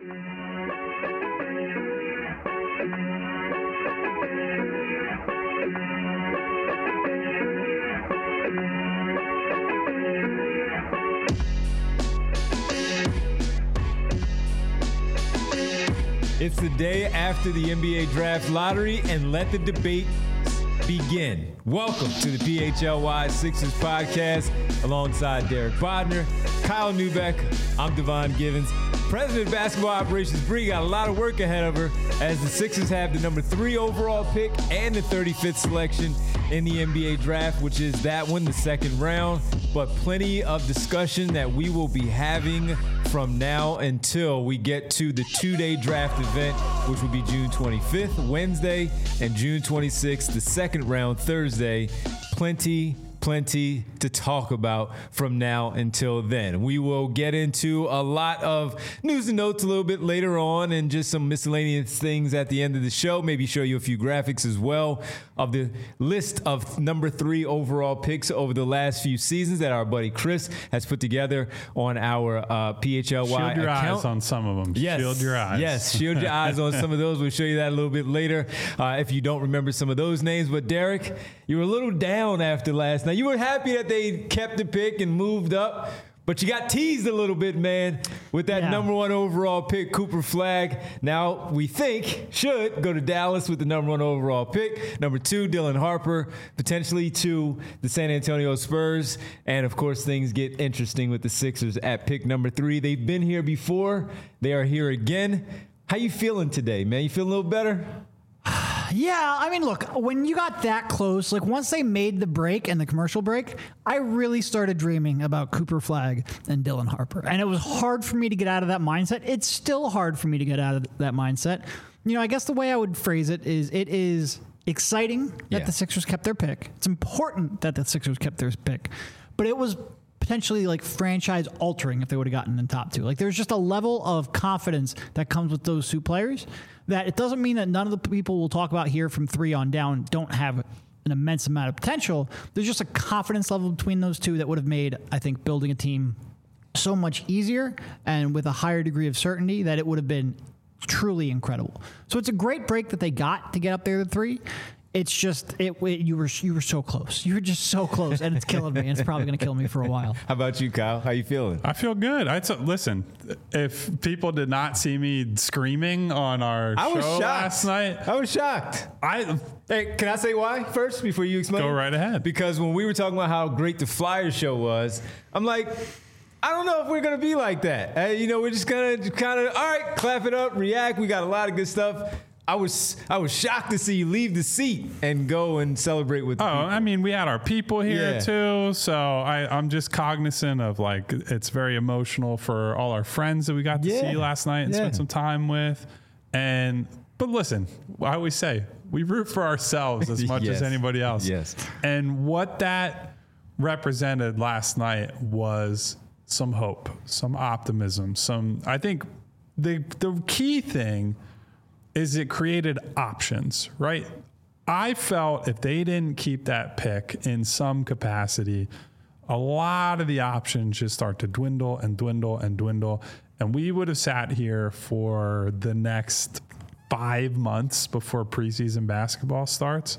It's the day after the NBA Draft Lottery, and let the debate begin. Welcome to the PHLY Sixers podcast alongside Derek Bodner, Kyle Neubeck. I'm Devon Givens. President of Basketball Operations Bree got a lot of work ahead of her as the Sixers have the number 3 overall pick and the 35th selection in the NBA Draft, which is that one, the second round. But plenty of discussion that we will be having from now until we get to the 2-day draft event, which will be June 25th, Wednesday, and June 26th, the second round, Thursday. Plenty to talk about from now until then. We will get into a lot of news and notes a little bit later on and just some miscellaneous things at the end of the show. Maybe show you a few graphics as well of the list of number 3 overall picks over the last few seasons that our buddy Chris has put together on our PHLY account. Shield your eyes on some of them. Yes. Shield your eyes. Yes, shield your eyes on some of those. We'll show you that a little bit later if you don't remember some of those names. But Derek, you were a little down after last night. You were happy that they kept the pick and moved up, but you got teased a little bit, man, with that number 1 overall pick, Cooper Flagg. Now we think should go to Dallas with the number 1 overall pick. Number 2, Dylan Harper, potentially to the San Antonio Spurs. And of course, things get interesting with the Sixers at pick number 3. They've been here before. They are here again. How you feeling today, man? You feeling a little better? Yeah, I mean, look, when you got that close, like once they made the break and the commercial break, I really started dreaming about Cooper Flagg and Dylan Harper. And it was hard for me to get out of that mindset. It's still hard for me to get out of that mindset. You know, I guess the way I would phrase it is exciting that the Sixers kept their pick. It's important that the Sixers kept their pick. But it was potentially like franchise altering if they would have gotten in top 2. Like there's just a level of confidence that comes with those 2 players that it doesn't mean that none of the people we'll talk about here from 3 on down don't have an immense amount of potential. There's just a confidence level between those 2 that would have made, I think, building a team so much easier and with a higher degree of certainty that it would have been truly incredible. So it's a great break that they got to get up there to 3. It's just you were so close. You were just so close, and it's killing me. And it's probably going to kill me for a while. How about you, Kyle? How you feeling? I feel good. Listen, if people did not see me screaming on our show last night, I was shocked. Hey, can I say why first before you explain? Go right ahead. Because when we were talking about how great the Flyers show was, I'm like, I don't know if we're going to be like that. We're just going to kind of, all right, clap it up, react. We got a lot of good stuff. I was shocked to see you leave the seat and go and celebrate with the people. I mean, we had our people here too, so I'm just cognizant of, like, it's very emotional for all our friends that we got to see last night and spend some time with. But listen, I always say, we root for ourselves as much as anybody else. Yes. And what that represented last night was some hope, some optimism, I think the key thing is it created options, right? I felt if they didn't keep that pick in some capacity, a lot of the options just start to dwindle and dwindle and dwindle. And we would have sat here for the next 5 months before preseason basketball starts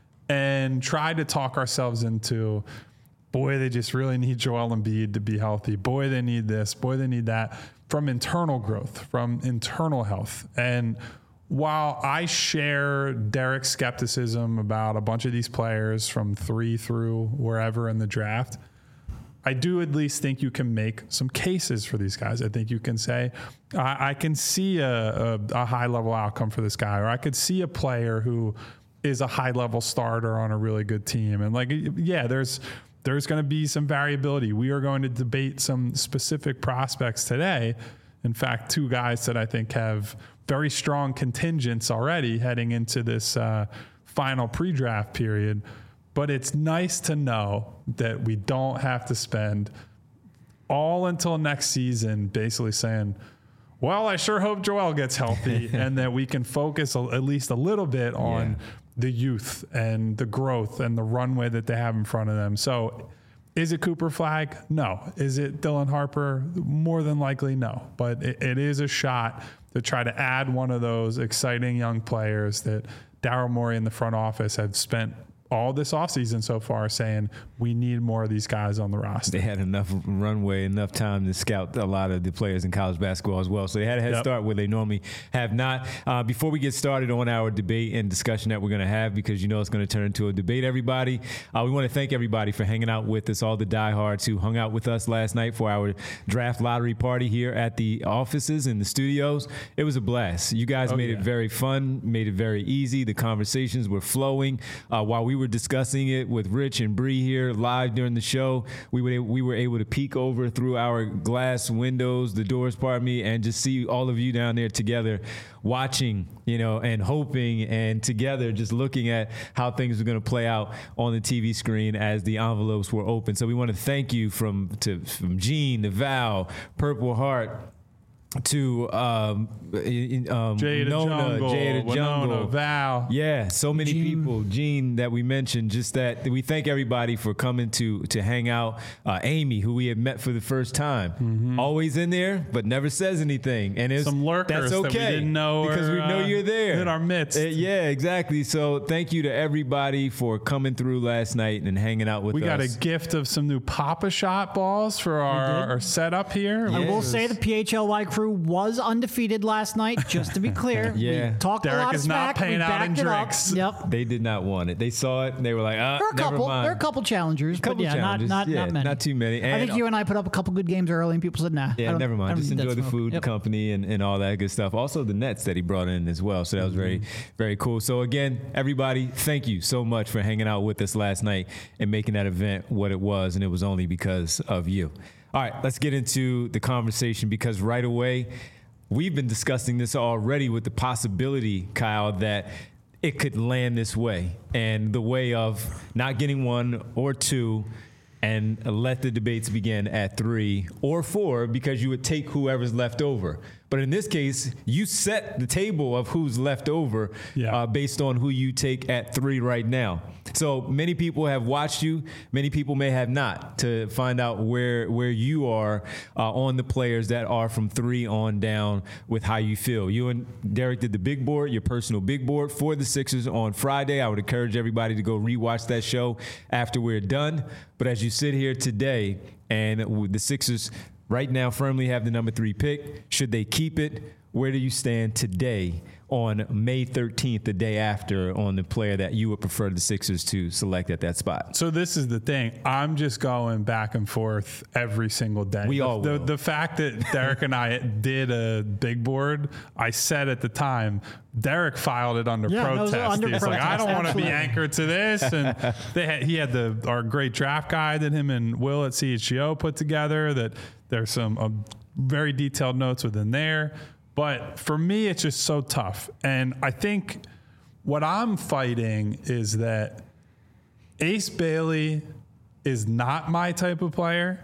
and tried to talk ourselves into, boy, they just really need Joel Embiid to be healthy. Boy, they need this. Boy, they need that. From internal growth, from internal health. And while I share Derek's skepticism about a bunch of these players from 3 through wherever in the draft, I do at least think you can make some cases for these guys. I think you can say, I can see a high-level outcome for this guy, or I could see a player who is a high-level starter on a really good team. And, like, yeah, there's going to be some variability. We are going to debate some specific prospects today. In fact, 2 guys that I think have very strong contingents already heading into this final pre-draft period. But it's nice to know that we don't have to spend all until next season basically saying, well, I sure hope Joel gets healthy and that we can focus at least a little bit on the youth and the growth and the runway that they have in front of them. So Is it Cooper Flagg? No. Is it Dylan Harper? More than likely, no. But it is a shot to try to add one of those exciting young players that Daryl Morey in the front office have spent all this offseason so far saying we need more of these guys on the roster. They had enough runway, enough time to scout a lot of the players in college basketball as well. So they had a head start where they normally have not. Before we get started on our debate and discussion that we're going to have, because you know it's going to turn into a debate, everybody, we want to thank everybody for hanging out with us, all the diehards who hung out with us last night for our draft lottery party here at the offices in the studios. It was a blast. You guys made it very fun, made it very easy. The conversations were flowing. While we were discussing it with Rich and Bree here live during the show, we were able to peek over through our glass windows, the doors, pardon me, and just see all of you down there together watching, and hoping, and together just looking at how things are going to play out on the TV screen as the envelopes were open. So we want to thank you from Gene to Val, Purple Heart, to Jada Nona, Jada Winona, Jungle, Val. Yeah, so many people. Gene that we mentioned. Just that we thank everybody for coming to hang out. Amy, who we had met for the first time, always in there but never says anything, and it's some lurkers that's okay that we didn't know because we know you're there in our midst. Yeah, exactly. So thank you to everybody for coming through last night and hanging out with us. We got a gift of some new Papa Shot balls for our setup here. I will say the PHLY crew was undefeated last night, just to be clear. Yeah. We talked Derek a lot of is not smack. We paying out in backed it up. drinks. Yep. They did not want it. They saw it and they were like, There are a couple. never mind. There are a couple challengers, but yeah, challenges. not many. Not too many. I think you and I put up a couple good games early, and people said, "Nah." Yeah, never mind. Just need that enjoy the smoke. food, Yep. the company, and all that good stuff. Also, the nets that he brought in as well. So that was very, very cool. So again, everybody, thank you so much for hanging out with us last night and making that event what it was. And it was only because of you. All right, let's get into the conversation, because right away, we've been discussing this already with the possibility, Kyle, that it could land this way, and the way of not getting 1 or 2 and let the debates begin at 3 or 4, because you would take whoever's left over. But in this case, you set the table of who's left over based on who you take at 3 right now. So many people have watched you. Many people may have not, to find out where you are on the players that are from 3 on down with how you feel. You and Derek did the big board, your personal big board for the Sixers on Friday. I would encourage everybody to go rewatch that show after we're done. But as you sit here today, and the Sixers right now firmly have the number 3 pick, should they keep it? Where do you stand today on May 13th, the day after, on the player that you would prefer the Sixers to select at that spot? So this is the thing. I'm just going back and forth every single day. We all will. The fact that Derek and I did a big board, I said at the time, Derek filed it under protest. Under He's like, protest, I don't want to be absolutely. anchored to this. And he had our great draft guide that him and Will at CHGO put together, that there's some very detailed notes within there. But for me, it's just so tough. And I think what I'm fighting is that Ace Bailey is not my type of player.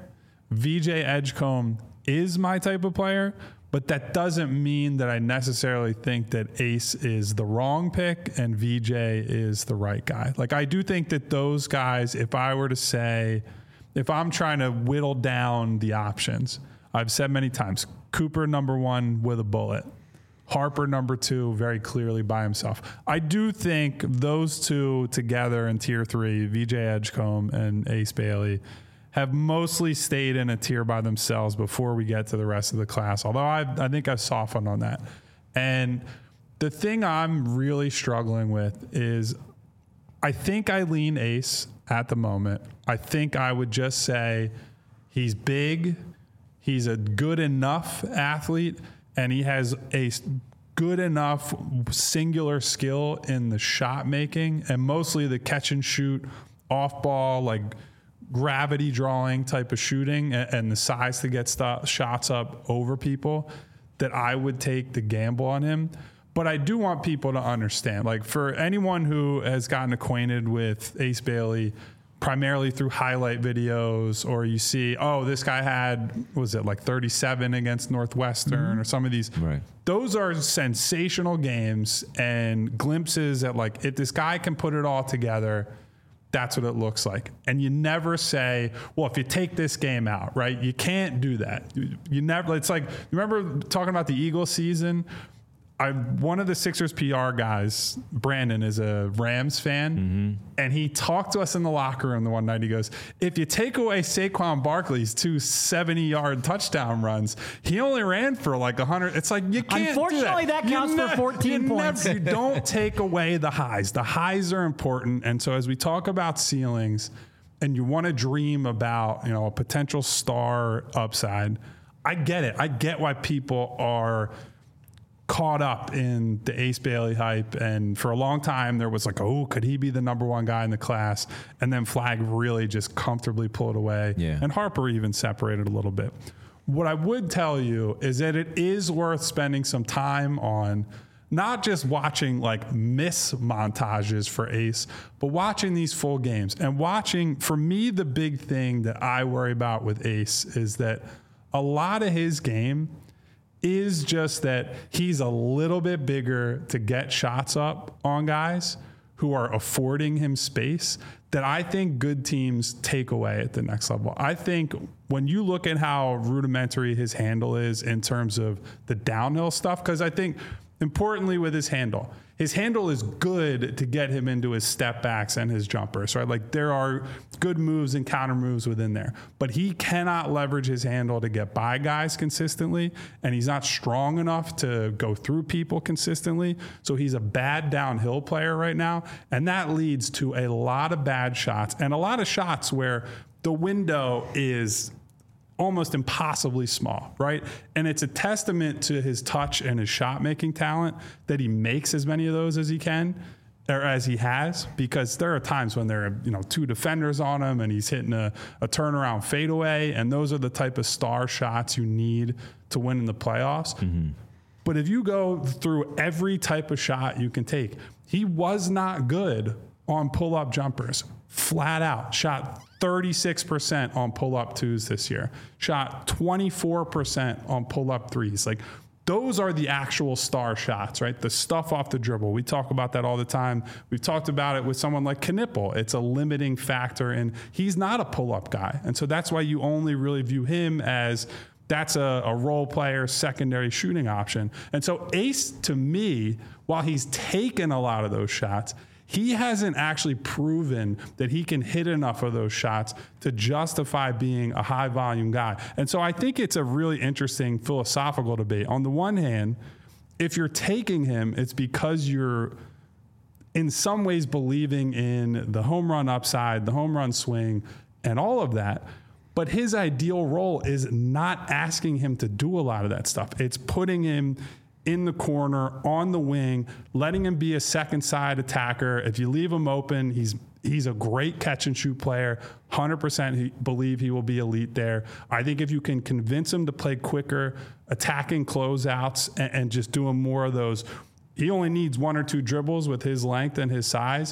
VJ Edgecombe is my type of player. But that doesn't mean that I necessarily think that Ace is the wrong pick and VJ is the right guy. Like, I do think that those guys, if I were to say, if I'm trying to whittle down the options, I've said many times, Cooper number 1 with a bullet. Harper number 2 very clearly by himself. I do think those two together in tier 3, VJ Edgecombe and Ace Bailey, have mostly stayed in a tier by themselves before we get to the rest of the class. Although I think I've softened on that. And the thing I'm really struggling with is I think I lean Ace at the moment. I think I would just say he's big. He's a good enough athlete, and he has a good enough singular skill in the shot making and mostly the catch and shoot, off ball, like gravity drawing type of shooting, and the size to get shots up over people, that I would take the gamble on him. But I do want people to understand, like, for anyone who has gotten acquainted with Ace Bailey primarily through highlight videos, or you see, oh, this guy had, was it like 37 against Northwestern or some of these. Right. Those are sensational games and glimpses at, like, if this guy can put it all together, that's what it looks like. And you never say, well, if you take this game out, right? You can't do that. You never, it's like, you remember talking about the Eagles season? One of the Sixers PR guys, Brandon, is a Rams fan, and he talked to us in the locker room the one night. He goes, if you take away Saquon Barkley's 2 70-yard touchdown runs, he only ran for like 100. It's like, you can't Unfortunately, do that. that counts for 14 points. You don't take away the highs. The highs are important. And so as we talk about ceilings and you want to dream about, you know, a potential star upside, I get it. I get why people are caught up in the Ace Bailey hype. And for a long time, there was like, oh, could he be the number one guy in the class? And then Flagg really just comfortably pulled away. Yeah. And Harper even separated a little bit. What I would tell you is that it is worth spending some time on not just watching like miss montages for Ace, but watching these full games and watching. For me, the big thing that I worry about with Ace is that a lot of his game is just that he's a little bit bigger to get shots up on guys who are affording him space that I think good teams take away at the next level. I think when you look at how rudimentary his handle is in terms of the downhill stuff, because I think importantly with his handle is good to get him into his step backs and his jumpers, right? Like there are good moves and counter moves within there, but he cannot leverage his handle to get by guys consistently, and he's not strong enough to go through people consistently. So he's a bad downhill player right now, and that leads to a lot of bad shots and a lot of shots where the window is almost impossibly small, right? And it's a testament to his touch and his shot making talent that he makes as many of those as he can, or as he has, because there are times when there are, you know, 2 defenders on him and he's hitting a turnaround fadeaway, and those are the type of star shots you need to win in the playoffs. But if you go through every type of shot you can take, he was not good on pull-up jumpers, flat out. Shot 36% on pull-up twos this year. Shot 24% on pull-up threes. Like, those are the actual star shots, right? The stuff off the dribble. We talk about that all the time. We've talked about it with someone like Knipple. It's a limiting factor, and he's not a pull-up guy. And so that's why you only really view him as that's a role player, secondary shooting option. And so Ace, to me, while he's taken a lot of those shots, he hasn't actually proven that he can hit enough of those shots to justify being a high volume guy. And so I think it's a really interesting philosophical debate. On the one hand, if you're taking him, it's because you're in some ways believing in the home run upside, the home run swing, and all of that. But his ideal role is not asking him to do a lot of that stuff. It's putting him in the corner, on the wing, letting him be a second side attacker. If you leave him open, he's a great catch and shoot player. 100% believe he will be elite there. I think if you can convince him to play quicker, attacking closeouts, and just doing more of those, he only needs 1 or 2 dribbles with his length and his size.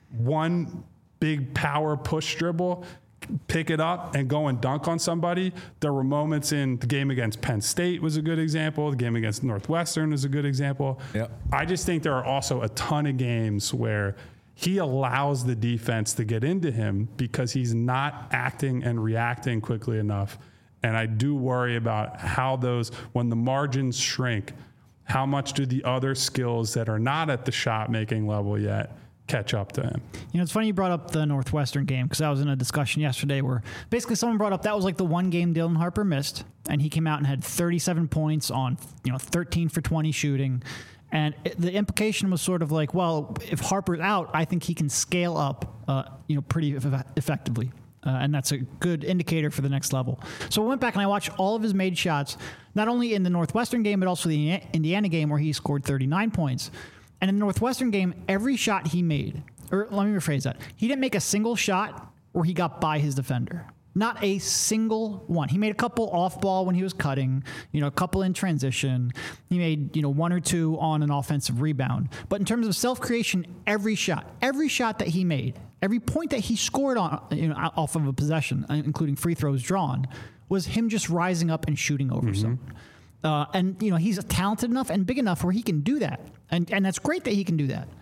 One big power push dribble, pick it up and go and dunk on somebody. There were moments in the game against Penn State was a good example. The game against Northwestern is a good example. Yep. I just think there are also a ton of games where he allows the defense to get into him because he's not acting and reacting quickly enough. And I do worry about how those, when the margins shrink, how much do the other skills that are not at the shot making level yet catch up to him? You know, it's funny you brought up the Northwestern game, because I was in a discussion yesterday where basically someone brought up that was like the one game Dylan Harper missed, and he came out and had 37 points on, 13 for 20 shooting. And the implication was sort of like, well, if Harper's out, I think he can scale up, pretty effectively. And that's a good indicator for the next level. So I went back and I watched all of his made shots, not only in the Northwestern game, but also the Indiana game where he scored 39 points. And in the Northwestern game, every shot he made, or let me rephrase that, he didn't make a single shot where he got by his defender. Not a single one. He made a couple off ball when he was cutting, a couple in transition. He made, 1 or 2 on an offensive rebound. But in terms of self-creation, every shot that he made, every point that he scored on, off of a possession, including free throws drawn, was him just rising up and shooting over someone. And he's talented enough and big enough where he can do that. And that's great that he can do that.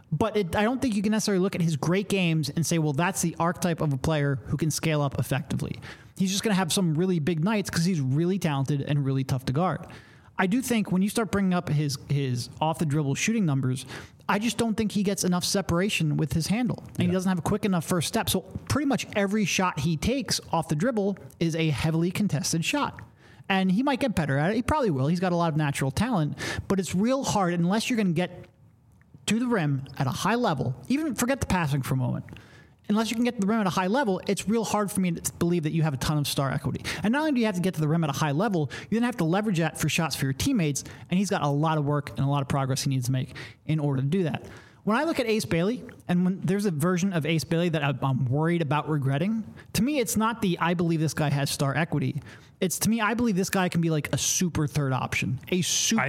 But I don't think you can necessarily look at his great games and say, well, that's the archetype of a player who can scale up effectively. He's just going to have some really big nights because he's really talented and really tough to guard. I do think when you start bringing up his off the dribble shooting numbers, I just don't think he gets enough separation with his handle. And he doesn't have a quick enough first step. So pretty much every shot he takes off the dribble is a heavily contested shot. And he might get better at it. He probably will. He's got a lot of natural talent. But it's real hard unless you're going to get to the rim at a high level. Even forget the passing for a moment. Unless you can get to the rim at a high level, it's real hard for me to believe that you have a ton of star equity. And not only do you have to get to the rim at a high level, you then have to leverage that for shots for your teammates, and he's got a lot of work and a lot of progress he needs to make in order to do that. When I look at Ace Bailey, and when there's a version of Ace Bailey that I'm worried about regretting, to me, it's not I believe this guy has star equity. It's, to me, I believe this guy can be like a super third option. A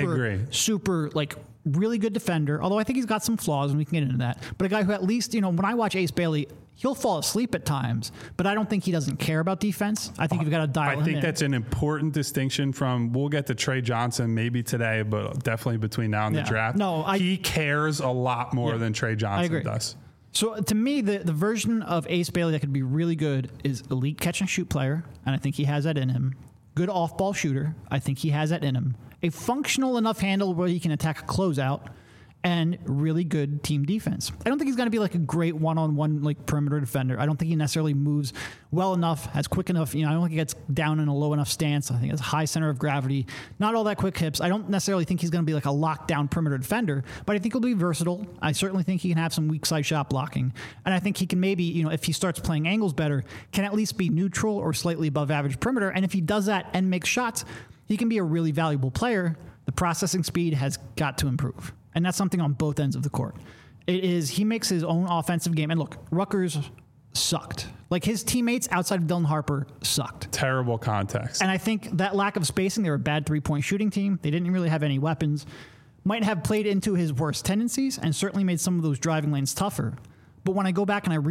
super, like, really good defender, although I think he's got some flaws, and we can get into that. But a guy who at least, when I watch Ace Bailey, he'll fall asleep at times, but I don't think he doesn't care about defense. I think you've got to dial him in. I think that's an important distinction from, we'll get to Trey Johnson maybe today, but definitely between now and the draft. He cares a lot more than Trey Johnson does. So to me, the version of Ace Bailey that could be really good is elite catch and shoot player, and I think he has that in him. Good off-ball shooter, I think he has that in him. A functional enough handle where he can attack a closeout, and really good team defense. I don't think he's going to be like a great one-on-one like perimeter defender. I don't think he necessarily moves well enough, has quick enough. I don't think he gets down in a low enough stance. I think he has high center of gravity, not all that quick hips. I don't necessarily think he's going to be like a lockdown perimeter defender, but I think he'll be versatile. I certainly think he can have some weak side shot blocking, and I think he can maybe, if he starts playing angles better, can at least be neutral or slightly above average perimeter. And if he does that and makes shots, he can be a really valuable player. The processing speed has got to improve. And that's something on both ends of the court. He makes his own offensive game. And look, Rutgers sucked. Like, his teammates outside of Dylan Harper sucked. Terrible context. And I think that lack of spacing, they were a bad three-point shooting team. They didn't really have any weapons. Might have played into his worst tendencies and certainly made some of those driving lanes tougher. But when I go back and I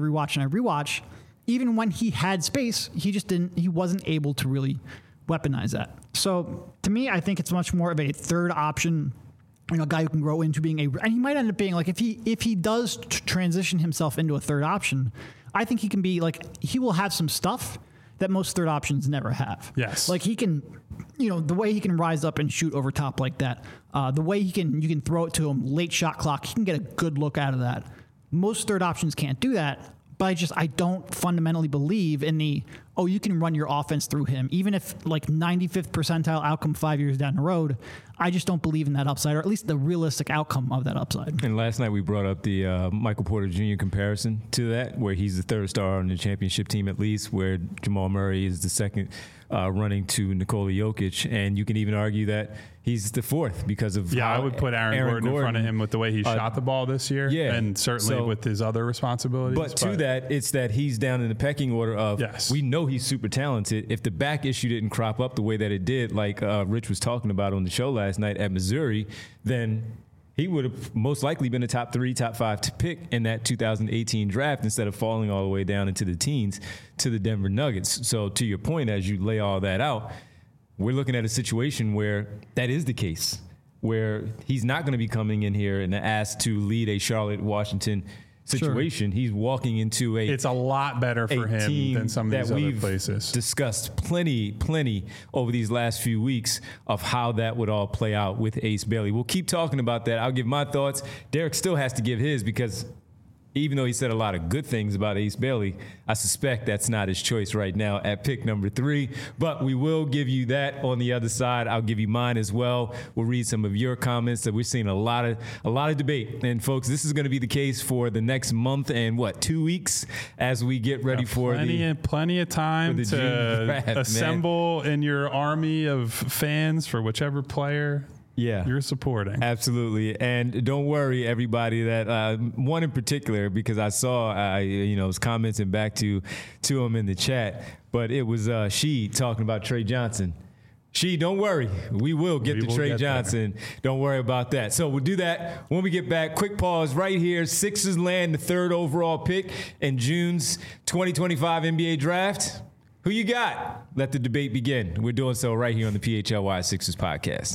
rewatch, even when he had space, he wasn't able to really weaponize that. So to me, I think it's much more of a third option, a guy who can grow into being and he might end up being like, if he does transition himself into a third option, I think he can be like, he will have some stuff that most third options never have. Yes. Like, he can, the way he can rise up and shoot over top like that, the way you can throw it to him late shot clock, he can get a good look out of that. Most third options can't do that. But I don't fundamentally believe in you can run your offense through him. Even if like 95th percentile outcome 5 years down the road, I just don't believe in that upside, or at least the realistic outcome of that upside. And last night we brought up the Michael Porter Jr. comparison to that, where he's the third star on the championship team at least, where Jamal Murray is the second running to Nikola Jokic. And you can even argue that he's the fourth because of I would put Aaron Gordon in front of him with the way he shot the ball this year, and certainly with his other responsibilities. But to that, it's that he's down in the pecking order of, we know he's super talented. If the back issue didn't crop up the way that it did, like Rich was talking about on the show last night at Missouri, then he would have most likely been a top 3, top 5 pick in that 2018 draft instead of falling all the way down into the teens to the Denver Nuggets. So to your point, as you lay all that out, we're looking at a situation where that is the case, where he's not going to be coming in here and asked to lead a Charlotte, Washington situation. Sure. He's walking into it's a lot better for him than some of these other places. Discussed plenty over these last few weeks of how that would all play out with Ace Bailey. We'll keep talking about that. I'll give my thoughts. Derek still has to give his, because even though he said a lot of good things about Ace Bailey, I suspect that's not his choice right now at pick number 3. But we will give you that on the other side. I'll give you mine as well. We'll read some of your comments. That we're seeing a lot of debate. And folks, this is going to be the case for the next month and 2 weeks as we get ready for plenty of time to draft, assemble in your army of fans for whichever player you're supporting. Absolutely. And don't worry, everybody, that one in particular, because I saw, was commenting back to him in the chat, but it was she talking about Trey Johnson. Don't worry. We will get to Trey Johnson. Don't worry about that. So we'll do that when we get back. Quick pause right here. Sixers land the 3rd overall pick in June's 2025 NBA draft. Who you got? Let the debate begin. We're doing so right here on the PHLY Sixers podcast.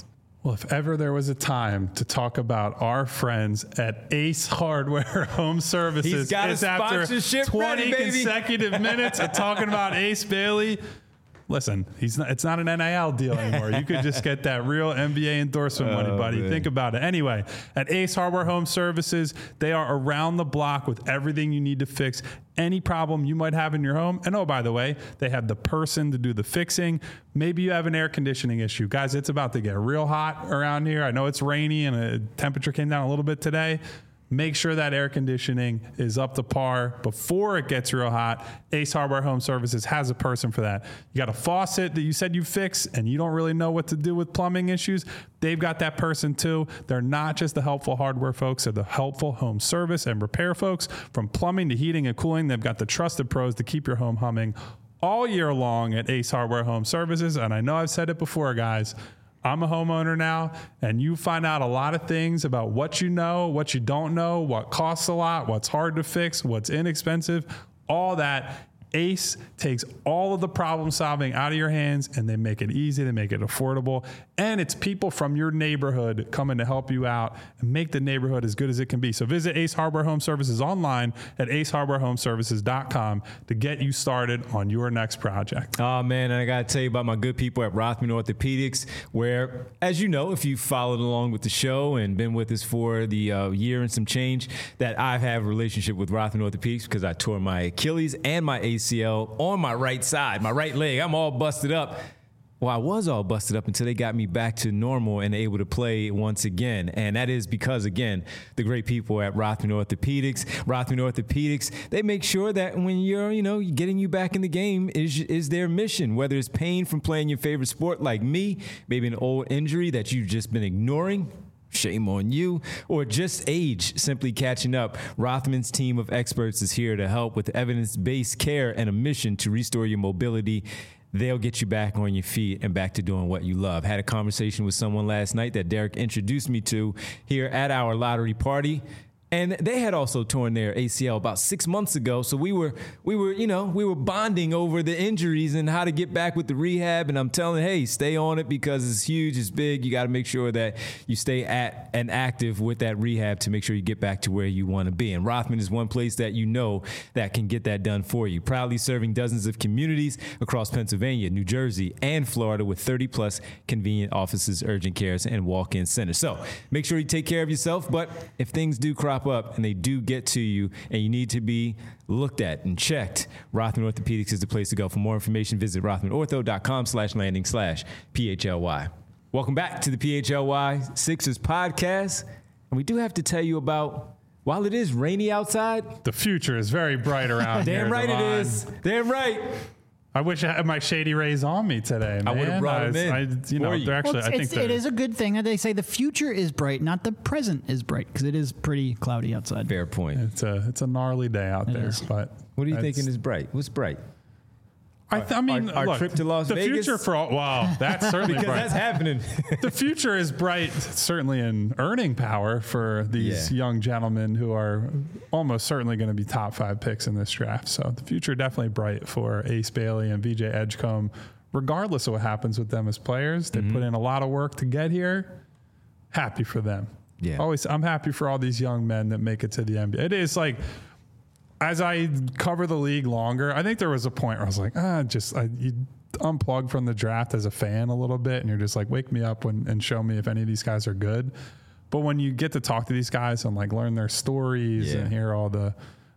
Well, if ever there was a time to talk about our friends at Ace Hardware Home Services, He's got it's a after sponsorship 20 ready, baby. consecutive minutes of talking about Ace Bailey. Listen, it's not an NIL deal anymore. You could just get that real NBA endorsement money, buddy. Man. Think about it. Anyway, at Ace Hardware Home Services, they are around the block with everything you need to fix any problem you might have in your home. And oh, by the way, they have the person to do the fixing. Maybe you have an air conditioning issue. Guys, it's about to get real hot around here. I know it's rainy and the temperature came down a little bit today. Make sure that air conditioning is up to par before it gets real hot. Ace Hardware Home Services has a person for that. You got a faucet that you said you fix and you don't really know what to do with plumbing issues. They've got that person too. They're not just the helpful hardware folks, they're the helpful home service and repair folks. From plumbing to heating and cooling, they've got the trusted pros to keep your home humming all year long at Ace Hardware Home Services. And I know I've said it before, guys. I'm a homeowner now, and you find out a lot of things about what you know, what you don't know, what costs a lot, what's hard to fix, what's inexpensive, all that. Ace takes all of the problem solving out of your hands, and they make it easy, they make it affordable, and it's people from your neighborhood coming to help you out and make the neighborhood as good as it can be. So visit Ace Hardware Home Services online at acehardwarehomeservices.com to get you started on your next project. Oh, man, and I got to tell you about my good people at Rothman Orthopedics, where, as you know, if you've followed along with the show and been with us for the year and some change, that I have a relationship with Rothman Orthopedics because I tore my Achilles and my ACL on my right side, my right leg. I'm all busted up. Well, I was all busted up until they got me back to normal and able to play once again. And that is because, again, the great people at Rothman Orthopedics. Rothman Orthopedics, they make sure that when you're, getting you back in the game is their mission. Whether it's pain from playing your favorite sport like me, maybe an old injury that you've just been ignoring, shame on you, or just age simply catching up. Rothman's team of experts is here to help with evidence-based care and a mission to restore your mobility. They'll get you back on your feet and back to doing what you love. Had a conversation with someone last night that Derek introduced me to here at our lottery party. And they had also torn their ACL about 6 months ago. So we were bonding over the injuries and how to get back with the rehab. And I'm telling, hey, stay on it because it's huge, it's big. You got to make sure that you stay at and active with that rehab to make sure you get back to where you want to be. And Rothman is one place that you know that can get that done for you. Proudly serving dozens of communities across Pennsylvania, New Jersey, and Florida with 30+ convenient offices, urgent cares, and walk-in centers. So make sure you take care of yourself. But if things do crop up and they do get to you and you need to be looked at and checked, Rothman Orthopedics is the place to go. For more information, visit rothmanortho.com/landing/PHLY. Welcome back to the PHLY Sixers podcast. And we do have to tell you about, while it is rainy outside, The future is very bright around here. damn right it Devon. is. Damn right. I wish I had my Shady Rays on me today, man. I would've brought them in for you. They're actually, Well, I think it is a good thing that they say the future is bright, not the present is bright, because it is pretty cloudy outside. Fair point. it's a gnarly day out there. is. But What are you that's- thinking is bright? What's bright? I mean, our look, trip to Las the Vegas? future for all, wow, that's certainly Because bright. that's happening. The future is bright, certainly in earning power for these young gentlemen who are almost certainly going to be top 5 picks in this draft. So the future definitely bright for Ace Bailey and VJ Edgecombe, regardless of what happens with them as players. They put in a lot of work to get here. Happy for them. Yeah. I'm happy for all these young men that make it to the NBA. It is like, as I cover the league longer, I think there was a point where I was like, you unplug from the draft as a fan a little bit, and you're just like, wake me up and show me if any of these guys are good. But when you get to talk to these guys and like learn their stories and hear all the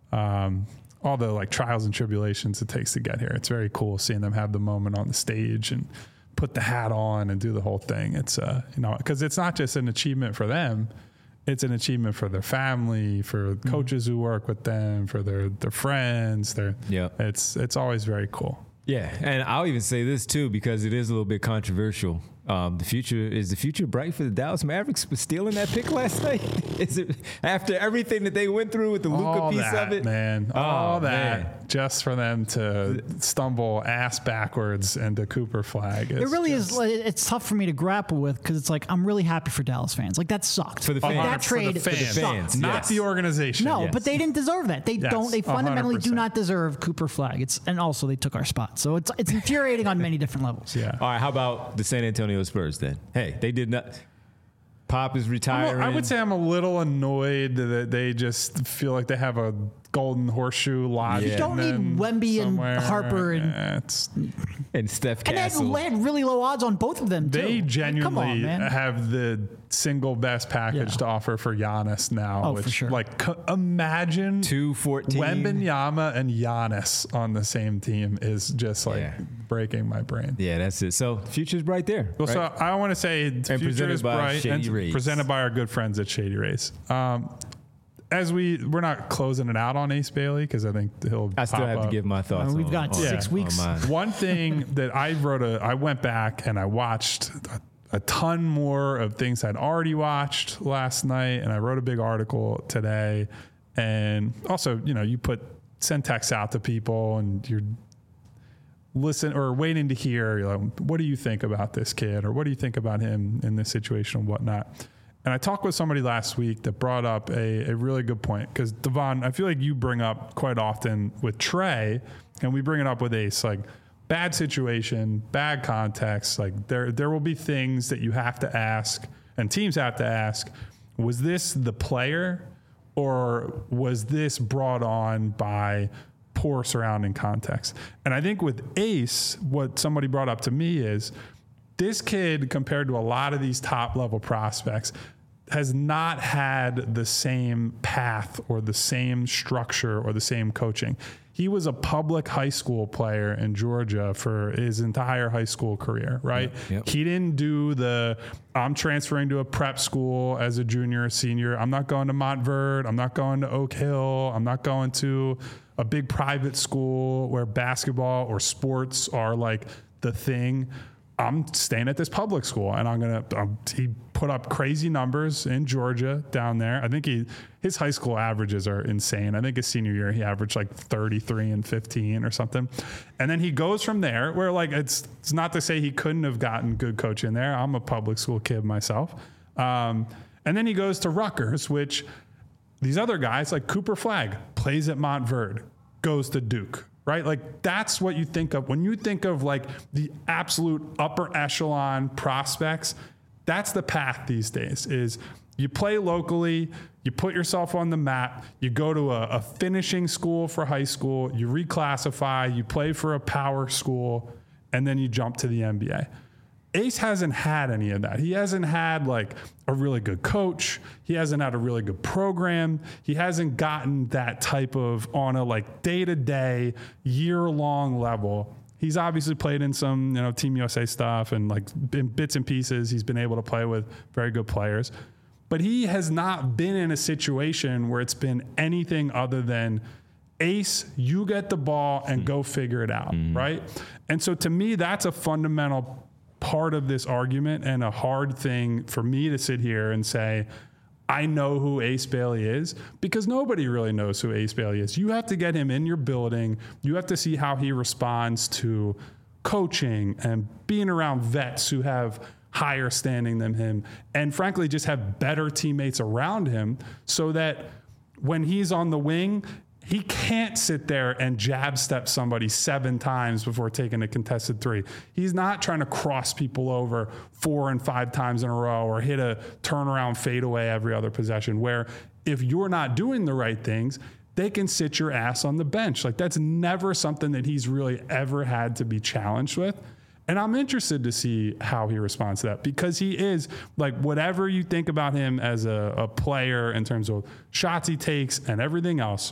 like trials and tribulations it takes to get here, it's very cool seeing them have the moment on the stage and put the hat on and do the whole thing. It's because it's not just an achievement for them. It's an achievement for their family, for coaches who work with them, for their friends. It's always very cool. Yeah, and I'll even say this too, because it is a little bit controversial. The future bright for the Dallas Mavericks for stealing that pick last night? Is it after everything that they went through with the Luka piece of it? Man, All that man. just for them to stumble ass backwards into Cooper Flag. It really is. It's tough for me to grapple with because it's like I'm really happy for Dallas fans. Like that sucked. For the fans. That trade for the sucked. fans. not Yes. the organization. No, Yes. but they didn't deserve that. They Yes, don't. They fundamentally do 100%. not deserve Cooper Flag. And also they took our spot. So it's infuriating on many different levels. Yeah. All right, how about the San Antonio Spurs then? Hey, they did not. Pop is retiring. I would say I'm a little annoyed that they just feel like they have a golden horseshoe lot. Yeah. You don't need Wemby and Harper and Steph and Castle. they had really low odds on both of them, too. They genuinely Come on, man. have the single best package to offer for Giannis now. Oh, for sure. Like, imagine 2-14. Wembanyama and Giannis on the same team is just like breaking my brain. Yeah, that's it. So future's bright there. Well, right? so I want to say future is bright Shady and Rays. presented by our good friends at Shady Rays. As we're not closing it out on Ace Bailey because I think he'll. I still pop have up. to give my thoughts. We've got 6 weeks. One thing that I went back and I watched a ton more of things I'd already watched last night, and I wrote a big article today. And also, you send texts out to people, and you're waiting to hear, what do you think about this kid, or what do you think about him in this situation and whatnot. And I talked with somebody last week that brought up a really good point, because Devon, I feel like you bring up quite often with Trey, and we bring it up with Ace, like bad situation, bad context. Like there will be things that you have to ask, and teams have to ask, was this the player, or was this brought on by poor surrounding context? And I think with Ace, what somebody brought up to me is this kid, compared to a lot of these top level prospects, has not had the same path or the same structure or the same coaching. He was a public high school player in Georgia for his entire high school career, right? Yep. He didn't do I'm transferring to a prep school as a junior or senior. I'm not going to Montverde. I'm not going to Oak Hill. I'm not going to a big private school where basketball or sports are like the thing. I'm staying at this public school, and he put up crazy numbers in Georgia down there. I think his high school averages are insane. I think his senior year, he averaged like 33 and 15 or something. And then he goes from there where, like, it's not to say he couldn't have gotten good coaching there. I'm a public school kid myself. And then he goes to Rutgers, which these other guys like Cooper Flagg plays at Montverde, goes to Duke. Right? Like, that's what you think of when you think of like the absolute upper echelon prospects. That's the path these days, is you play locally, you put yourself on the map, you go to a finishing school for high school, you reclassify, you play for a power school, and then you jump to the NBA. Ace hasn't had any of that. He hasn't had like a really good coach. He hasn't had a really good program. He hasn't gotten that type of on a like day-to-day, year-long level. He's obviously played in some, Team USA stuff and like in bits and pieces. He's been able to play with very good players, but he has not been in a situation where it's been anything other than Ace, you get the ball and go figure it out. Right. And so to me, that's a fundamental part of this argument, and a hard thing for me to sit here and say, I know who Ace Bailey is, because nobody really knows who Ace Bailey is. You have to get him in your building. You have to see how he responds to coaching and being around vets who have higher standing than him, and frankly, just have better teammates around him, so that when he's on the wing, he can't sit there and jab step somebody 7 times before taking a contested 3. He's not trying to cross people over 4 and 5 times in a row or hit a turnaround fadeaway every other possession, where if you're not doing the right things, they can sit your ass on the bench. Like, that's never something that he's really ever had to be challenged with. And I'm interested to see how he responds to that, because he is, like, whatever you think about him as a player in terms of shots he takes and everything else,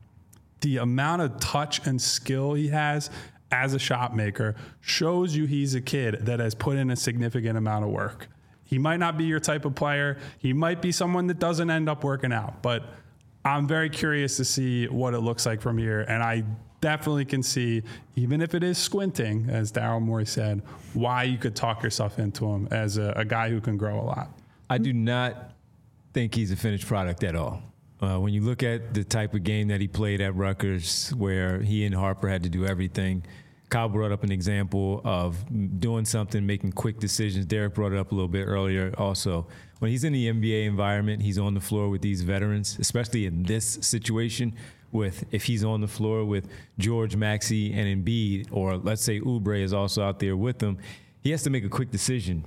the amount of touch and skill he has as a shot maker shows you he's a kid that has put in a significant amount of work. He might not be your type of player. He might be someone that doesn't end up working out, but I'm very curious to see what it looks like from here. And I definitely can see, even if it is squinting, as Daryl Morey said, why you could talk yourself into him as a guy who can grow a lot. I do not think he's a finished product at all. When you look at the type of game that he played at Rutgers, where he and Harper had to do everything, Kyle brought up an example of doing something, making quick decisions. Derek brought it up a little bit earlier also. When he's in the NBA environment, he's on the floor with these veterans, especially in this situation, if he's on the floor with George, Maxey, and Embiid, or let's say Oubre is also out there with them, he has to make a quick decision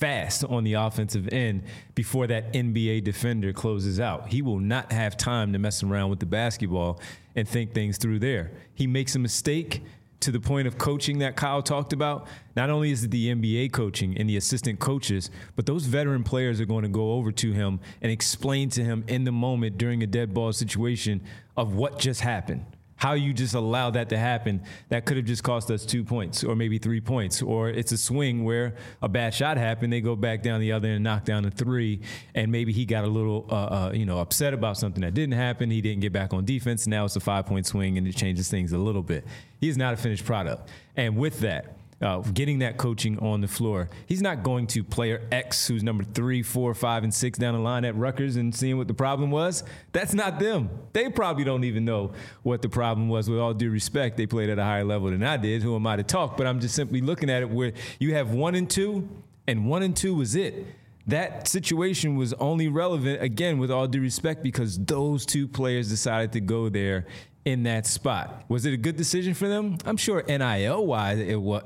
fast on the offensive end before that NBA defender closes out. He will not have time to mess around with the basketball and think things through there. He makes a mistake to the point of coaching that Kyle talked about. Not only is it the NBA coaching and the assistant coaches, but those veteran players are going to go over to him and explain to him in the moment during a dead ball situation of what just happened. How you just allow that to happen, that could have just cost us 2 points or maybe 3 points. Or it's a swing where a bad shot happened, they go back down the other and knock down a 3, and maybe he got a little upset about something that didn't happen. He didn't get back on defense. Now it's a 5-point swing, and it changes things a little bit. He is not a finished product. And with that, getting that coaching on the floor, he's not going to player X, who's number 3, 4, 5, and 6 down the line at Rutgers and seeing what the problem was. That's not them. They probably don't even know what the problem was. With all due respect, they played at a higher level than I did. Who am I to talk? But I'm just simply looking at it where you have 1 and 2, and 1 and 2 was it. That situation was only relevant, again, with all due respect, because those 2 players decided to go there in that spot. Was it a good decision for them? I'm sure NIL-wise it was.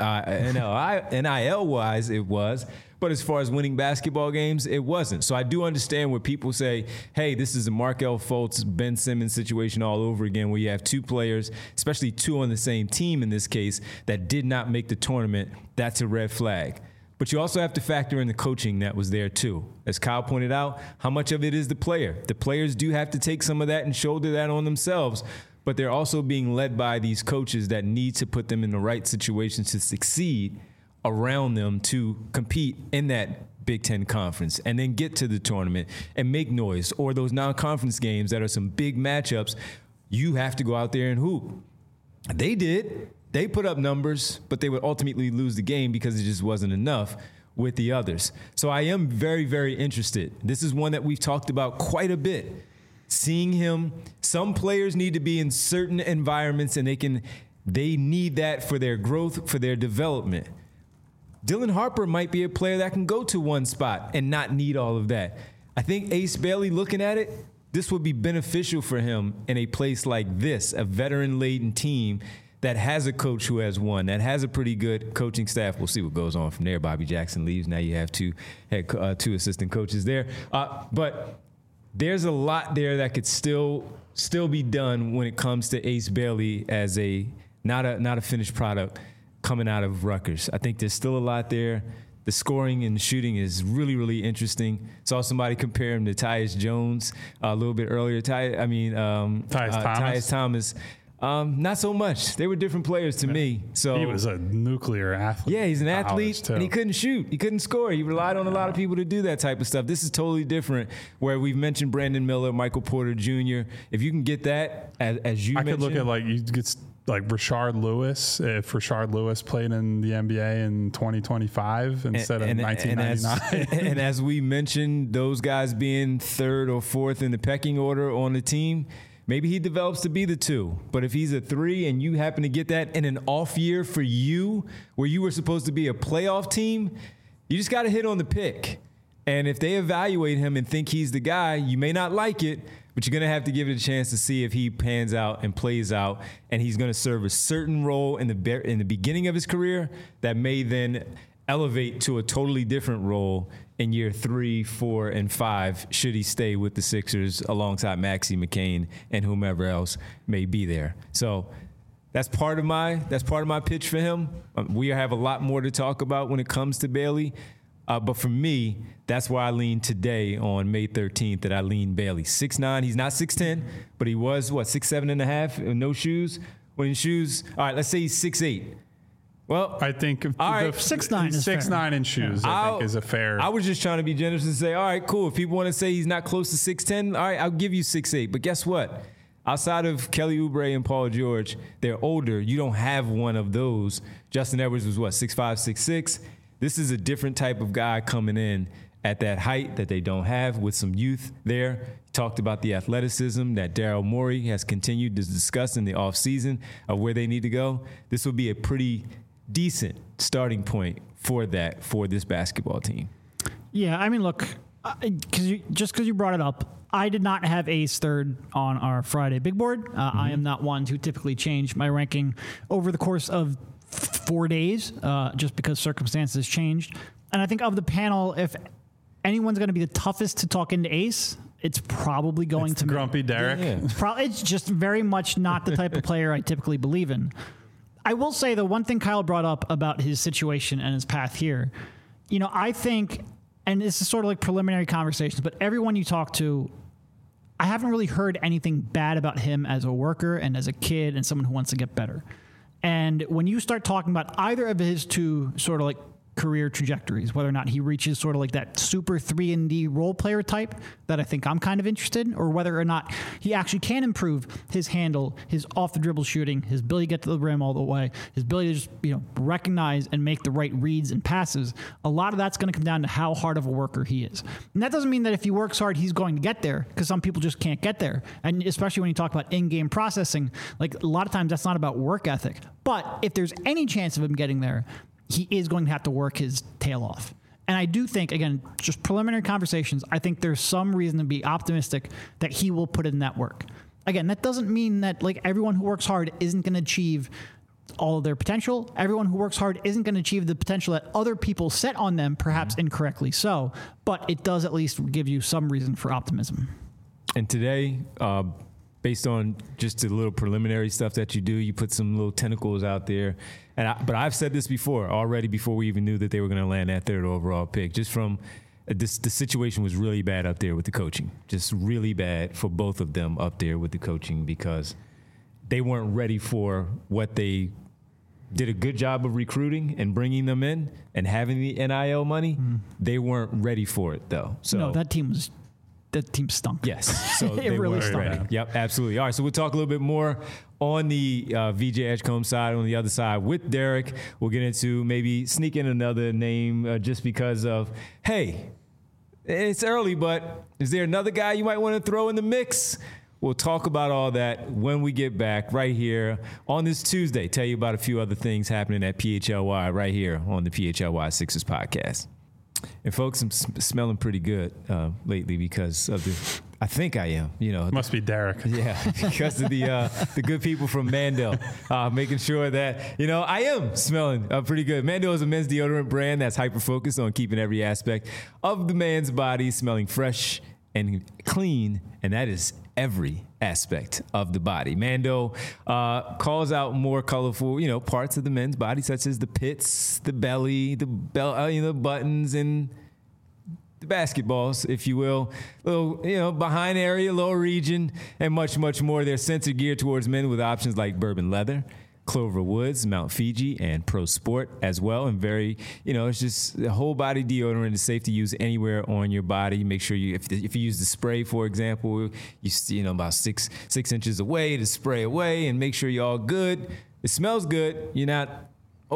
NIL-wise it was. But as far as winning basketball games, it wasn't. So I do understand where people say, hey, this is a Markelle Fultz, Ben Simmons situation all over again, where you have 2 players, especially 2 on the same team in this case, that did not make the tournament. That's a red flag. But you also have to factor in the coaching that was there too. As Kyle pointed out, how much of it is the player? The players do have to take some of that and shoulder that on themselves, but they're also being led by these coaches that need to put them in the right situations to succeed around them to compete in that Big Ten conference and then get to the tournament and make noise, or those non-conference games that are some big matchups. You have to go out there and hoop. They did. They put up numbers, but they would ultimately lose the game because it just wasn't enough with the others. So I am very, very interested. This is one that we've talked about quite a bit. Seeing him, some players need to be in certain environments, and they need that for their growth, for their development. Dylan Harper might be a player that can go to one spot and not need all of that. I think Ace Bailey, looking at it, this would be beneficial for him in a place like this, a veteran-laden team that has a coach who has won, that has a pretty good coaching staff. We'll see what goes on from there. Bobby Jackson leaves. Now you have 2 assistant coaches there. But there's a lot there that could still be done when it comes to Ace Bailey as not a finished product coming out of Rutgers. I think there's still a lot there. The scoring and the shooting is really, really interesting. Saw somebody compare him to Tyus Jones a little bit earlier. Tyus Thomas. Not so much. They were different players to me. So he was a nuclear athlete. Yeah, he's an athlete, and he couldn't shoot. He couldn't score. He relied on a lot of people to do that type of stuff. This is totally different, where we've mentioned Brandon Miller, Michael Porter Jr. If you can get that, as you mentioned. I could look at you get like Rashard Lewis, if Rashard Lewis played in the NBA in 2025 instead of 1999. And as we mentioned, those guys being 3rd or 4th in the pecking order on the team, maybe he develops to be the 2. But if he's a 3 and you happen to get that in an off year for you, where you were supposed to be a playoff team, you just got to hit on the pick. And if they evaluate him and think he's the guy, you may not like it, but you're going to have to give it a chance to see if he pans out and plays out, and he's going to serve a certain role in the beginning of his career that may then elevate to a totally different role in year 3, 4, and 5 should he stay with the Sixers alongside Maxie McCain and whomever else may be there. So that's part of my pitch for him. We have a lot more to talk about when it comes to Bailey. But for me, that's why I lean today on May 13th that I lean Bailey. 6'9", he's not 6'10", but he was, 6'7" and a half, no shoes? When in shoes, all right, let's say he's 6'8". Well, I think 6'9" is 6'9" in shoes, I think, is a fair. I was just trying to be generous and say, all right, cool. If people want to say he's not close to 6'10", all right, I'll give you 6'8". But guess what? Outside of Kelly Oubre and Paul George, they're older. You don't have one of those. Justin Edwards was 6'5", 6'6". This is a different type of guy coming in at that height that they don't have, with some youth there. Talked about the athleticism that Daryl Morey has continued to discuss in the offseason of where they need to go. This will be a pretty decent starting point for this basketball team. Yeah, I mean, look, because you brought it up, I did not have Ace 3rd on our Friday big board. I am not one to typically change my ranking over the course of 4 days, just because circumstances changed. And I think of the panel, if anyone's going to be the toughest to talk into Ace, it's probably going to be Grumpy Derek. Yeah. It's just very much not the type of player I typically believe in. I will say the one thing Kyle brought up about his situation and his path here, I think, and this is sort of like preliminary conversations, but everyone you talk to, I haven't really heard anything bad about him as a worker and as a kid and someone who wants to get better. And when you start talking about either of his two sort of like career trajectories, whether or not he reaches sort of like that super 3-and-D role player type that I think I'm kind of interested in, or whether or not he actually can improve his handle, his off the dribble shooting, his ability to get to the rim all the way, his ability to just, recognize and make the right reads and passes. A lot of that's going to come down to how hard of a worker he is. And that doesn't mean that if he works hard, he's going to get there, because some people just can't get there. And especially when you talk about in-game processing, like a lot of times that's not about work ethic. But if there's any chance of him getting there, he is going to have to work his tail off. And I do think, again, just preliminary conversations, I think there's some reason to be optimistic that he will put in that work. Again, that doesn't mean that like everyone who works hard isn't going to achieve all of their potential. Everyone who works hard isn't going to achieve the potential that other people set on them, perhaps incorrectly so. But it does at least give you some reason for optimism. And today, based on just the little preliminary stuff that you do, you put some little tentacles out there. But I've said this before already, before we even knew that they were going to land that third overall pick. Just from the situation was really bad up there with the coaching, just really bad for both of them up there with the coaching, because they weren't ready for what they did a good job of recruiting and bringing them in and having the NIL money. They weren't ready for it though. So no, that team stunk. Yes. So it really stunk. Ready. Yep, absolutely. All right, so we'll talk a little bit more on the VJ Edgecombe side. On the other side with Derek, we'll get into maybe sneak in another name just because of, hey, it's early, but is there another guy you might want to throw in the mix? We'll talk about all that when we get back right here on this Tuesday. Tell you about a few other things happening at PHLY right here on the PHLY Sixers podcast. And folks, I'm smelling pretty good lately because of I think I am, Must be Derek. Yeah, because of the good people from Mandel, making sure that, I am smelling pretty good. Mandel is a men's deodorant brand that's hyper-focused on keeping every aspect of the man's body smelling fresh and clean, and that is every aspect of the body. Mando calls out more colorful, parts of the men's body, such as the pits, the belly, the buttons, and the basketballs, if you will, little, behind area, lower region, and much, much more. They're sensor geared towards men with options like bourbon leather, Clover Woods, Mount Fiji, and Pro Sport as well. And very, it's just the whole body deodorant is safe to use anywhere on your body. Make sure if you use the spray, for example, you about six inches away to spray away and make sure you're all good. It smells good. You're not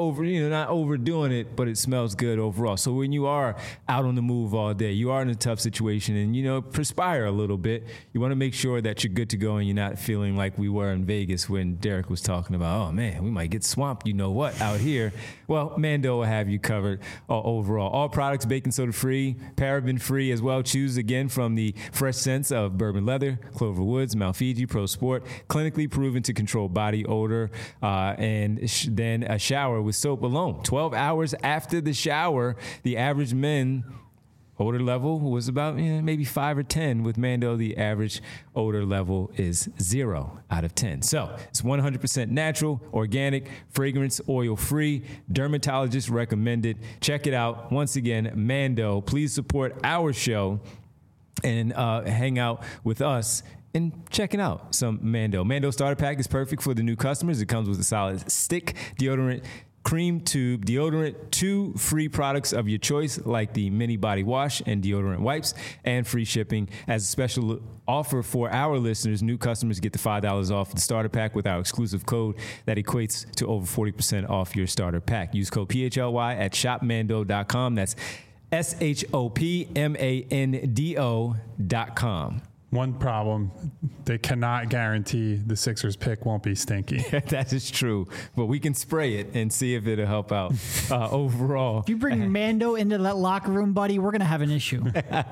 overdoing it, but it smells good overall. So when you are out on the move all day, you are in a tough situation and, perspire a little bit, you want to make sure that you're good to go and you're not feeling like we were in Vegas when Derek was talking about, oh man, we might get swamped, out here. Well, Mando will have you covered overall. All products baking soda free, paraben free as well. Choose again from the fresh scents of bourbon leather, Clover Woods, Mount Fiji, Pro Sport, clinically proven to control body odor, and then a shower with soap alone. 12 hours after the shower, the average men odor level was about maybe 5 or 10. With Mando, the average odor level is 0 out of 10. So it's 100% natural, organic, fragrance, oil-free, dermatologist recommended. Check it out. Once again, Mando, please support our show and hang out with us and checking out some Mando. Mando Starter Pack is perfect for the new customers. It comes with a solid stick, deodorant, cream tube, deodorant, 2 free products of your choice like the mini body wash and deodorant wipes, and free shipping. As a special offer for our listeners, new customers get the $5 off the starter pack with our exclusive code that equates to over 40% off your starter pack. Use code PHLY at shopmando.com. That's SHOPMANDO.com. One problem, they cannot guarantee the Sixers pick won't be stinky. That is true, but we can spray it and see if it'll help out overall. If you bring Mando into that locker room, buddy, we're going to have an issue.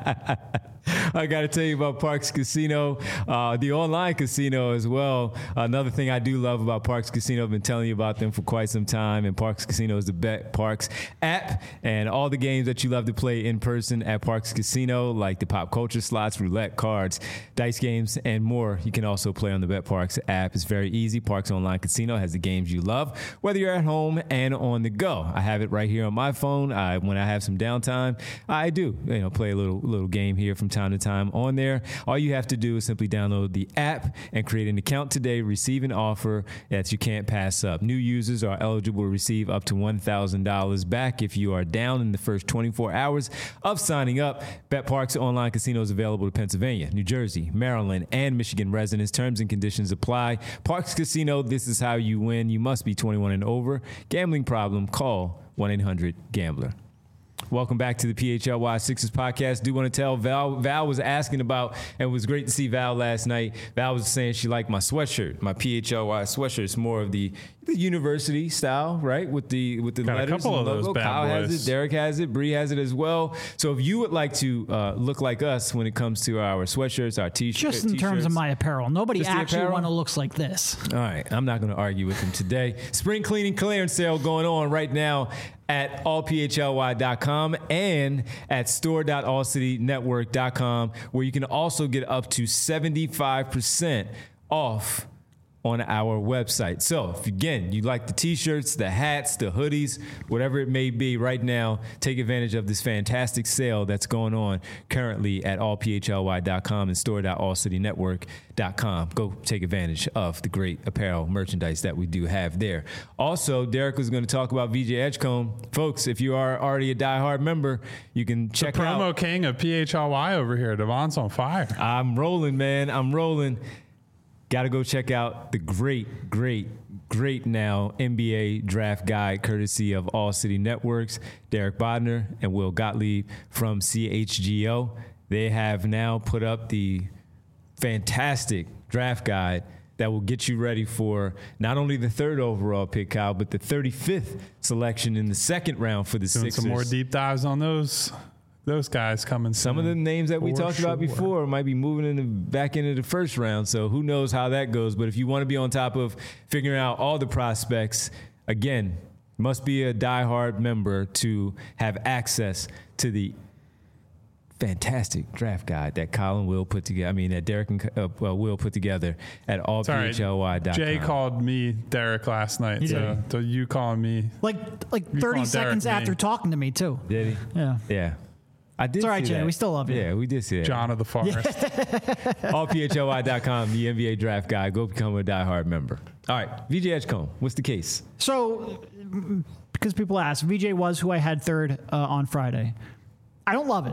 I got to tell you about Parx Casino, the online casino as well. Another thing I do love about Parx Casino, I've been telling you about them for quite some time, and Parx Casino is the BetParx app, and all the games that you love to play in person at Parx Casino, like the pop culture slots, roulette, cards, dice games, and more, you can also play on the BetParx app. It's very easy. Parx Online Casino has the games you love, whether you're at home and on the go. I have it right here on my phone. When I have some downtime, I do play a little game here from time to time on there. All you have to do is simply download the app and create an account today. Receive an offer that you can't pass up. New users are eligible to receive up to $1,000 back if you are down in the first 24 hours of signing up. BetParx Online Casino is available to Pennsylvania, New Jersey, Maryland, and Michigan residents. Terms and conditions apply. Parx Casino, this is how you win. You must be 21 and over. Gambling problem? Call 1-800-GAMBLER. Welcome back to the PHLY Sixers podcast. Do want to tell Val was asking about, and it was great to see Val last night. Val was saying she liked my sweatshirt, my PHLY sweatshirt. It's more of the university style, right? With the Got letters a couple and of logo. those bad Kyle boys. has it, Derek has it, Bree has it as well. So if you would like to look like us when it comes to our sweatshirts, our t-shirts. Just in terms of my apparel. Nobody Just the actually apparel? want to look like this. All right, I'm not going to argue with him today. Spring cleaning clearance sale going on right now at allphly.com and at store.allcitynetwork.com, where you can also get up to 75% off on our website. So if again you like the t-shirts, the hats, the hoodies, whatever it may be right now, take advantage of this fantastic sale that's going on currently at allphly.com and store.allcitynetwork.com. Go take advantage of the great apparel merchandise that we do have there. Also, Derek was going to talk about VJ Edgecombe. Folks, if you are already a diehard member, you can check the out promo king of PHLY over here. Devon's on fire. I'm rolling, man. I'm rolling. Got to go check out the great now NBA draft guide courtesy of All City Networks. Derek Bodner and Will Gottlieb from CHGO. They have now put up the fantastic draft guide that will get you ready for not only the third overall pick, Kyle, but the 35th selection in the second round for the Doing Sixers. some more deep dives on those guys coming soon. Some of the names that we For talked about sure. before might be moving back into the first round, so who knows how that goes. But if you want to be on top of figuring out all the prospects, again, must be a diehard member to have access to the fantastic draft guide that Colin will put together. I mean, that Derek and Will put together at allphly.com. Jay called me Derek last night. So you calling me? Like You 30 calling seconds Derek after me. talking to me, too. Did he? Yeah. Yeah. I did. It's all right, see Jay. that. We still love you. Yeah, we did see that. John of the Forest. allphly.com, the NBA draft guide. Go become a diehard member. All right, VJ Edgecombe, what's the case? So, because people ask, VJ was who I had third on Friday. I don't love it.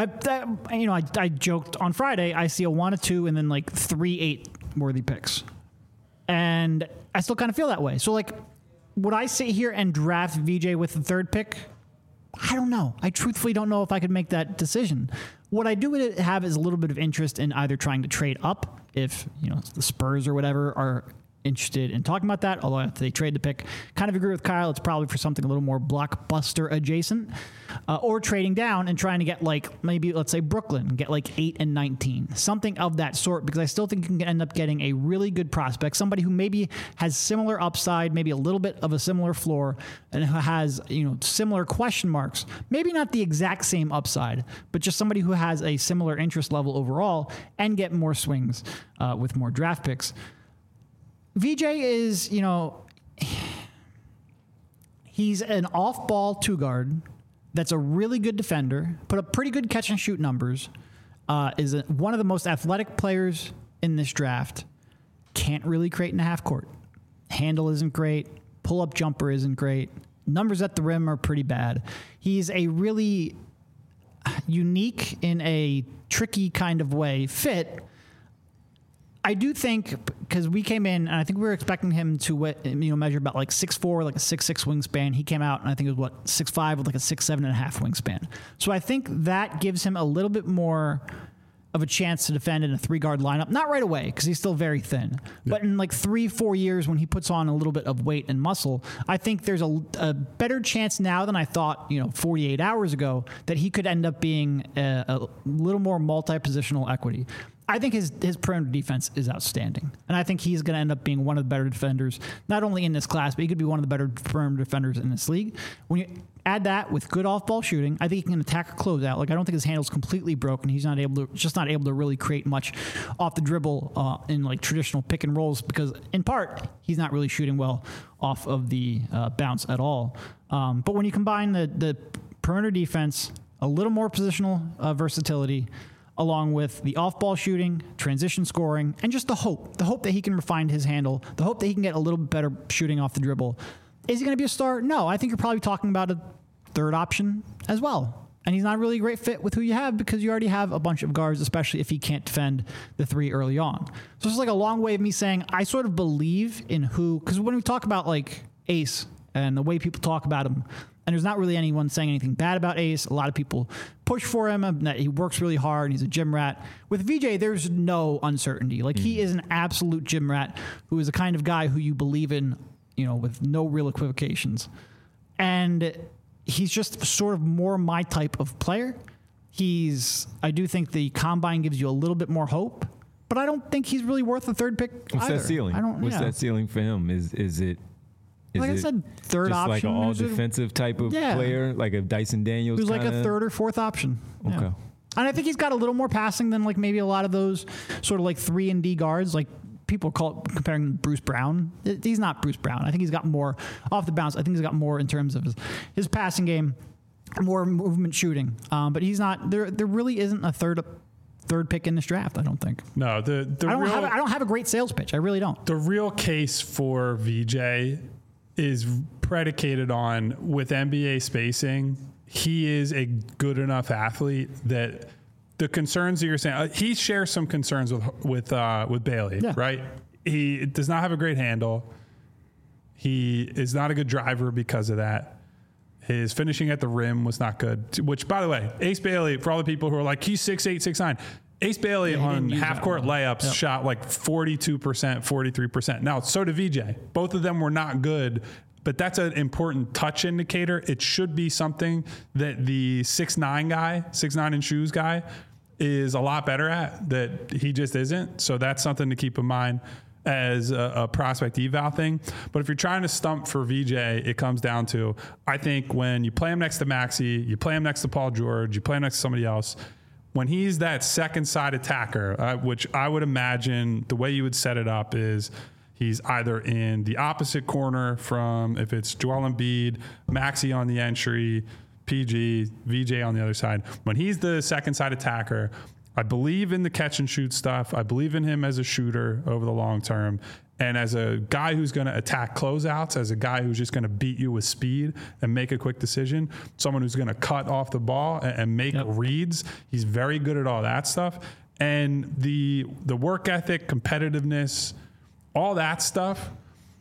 I joked on Friday, I see a 1, a 2, and then like 3 8 worthy picks. And I still kind of feel that way. So, like, would I sit here and draft VJ with the third pick? I don't know. I truthfully don't know if I could make that decision. What I do have is a little bit of interest in either trying to trade up if, the Spurs or whatever are interested in talking about that, although if they trade the pick, kind of agree with Kyle, it's probably for something a little more blockbuster adjacent, or trading down and trying to get maybe let's say Brooklyn, get 8 and 19, something of that sort, because I still think you can end up getting a really good prospect, somebody who maybe has similar upside, maybe a little bit of a similar floor, and who has similar question marks, maybe not the exact same upside, but just somebody who has a similar interest level overall, and get more swings with more draft picks. VJ is, he's an off-ball 2-guard that's a really good defender, put up pretty good catch and shoot numbers, is one of the most athletic players in this draft, can't really create in the half court. Handle isn't great, pull-up jumper isn't great, numbers at the rim are pretty bad. He's a really unique, in a tricky kind of way, fit. I do think, because we came in, and I think we were expecting him to measure about 6'4", like a 6'6" wingspan. He came out, and I think it was 6'5", with a 6'7.5" wingspan. So I think that gives him a little bit more of a chance to defend in a 3-guard lineup. Not right away, because he's still very thin. Yeah. But in like 3-4 years, when he puts on a little bit of weight and muscle, I think there's a better chance now than I thought, 48 hours ago, that he could end up being a little more multi-positional equity. I think his perimeter defense is outstanding. And I think he's going to end up being one of the better defenders, not only in this class, but he could be one of the better perimeter defenders in this league. When you add that with good off-ball shooting, I think he can attack a closeout. Like, I don't think his handle's completely broken. He's not able to really create much off the dribble in like traditional pick and rolls, because in part, he's not really shooting well off of the bounce at all. But when you combine the perimeter defense, a little more positional versatility, along with the off-ball shooting, transition scoring, and just the hope that he can refine his handle, the hope that he can get a little bit better shooting off the dribble. Is he going to be a star? No, I think you're probably talking about a third option as well. And he's not really a great fit with who you have, because you already have a bunch of guards, especially if he can't defend the 3 early on. So it's like a long way of me saying I sort of believe in who, because when we talk about like Ace and the way people talk about him, and there's not really anyone saying anything bad about Ace. A lot of people push for him, that he works really hard and he's a gym rat. With VJ, there's no uncertainty. Like, he is an absolute gym rat who is the kind of guy who you believe in, with no real equivocations. And he's just sort of more my type of player. I do think the combine gives you a little bit more hope, but I don't think he's really worth the 3rd pick What's either. that ceiling? What's that ceiling for him? Is it... Like I said, third just option. Like an all-defensive type of player, like a Dyson Daniels. Who's like a 3rd or 4th option. Okay. Yeah. And I think he's got a little more passing than like maybe a lot of those sort of like 3 and D guards. Like, people comparing him to Bruce Brown. He's not Bruce Brown. I think he's got more off the bounce. I think he's got more in terms of his passing game, more movement shooting. But he's not. There really isn't a third pick in this draft, I don't think. No, I don't have a great sales pitch. I really don't. The real case for VJ is predicated on, with NBA spacing, he is a good enough athlete that the concerns that you're saying, he shares some concerns with Bailey, right? He does not have a great handle. He is not a good driver because of that. His finishing at the rim was not good, which, by the way, Ace Bailey, for all the people who are like, he's 6'8", 6'9", Ace Bailey on half-court layups shot like 42%, 43%. Now, so did VJ. Both of them were not good, but that's an important touch indicator. It should be something that the 6'9" in shoes guy is a lot better at, that he just isn't. So that's something to keep in mind as a prospect eval thing. But if you're trying to stump for VJ, it comes down to, I think when you play him next to Maxey, you play him next to Paul George, you play him next to somebody else, when he's that second side attacker, which I would imagine the way you would set it up is he's either in the opposite corner from, if it's Joel Embiid, Maxey on the entry, PG, VJ on the other side. When he's the second side attacker, I believe in the catch and shoot stuff. I believe in him as a shooter over the long term. And as a guy who's going to attack closeouts, as a guy who's just going to beat you with speed and make a quick decision, someone who's going to cut off the ball and make reads, he's very good at all that stuff. And the work ethic, competitiveness, all that stuff,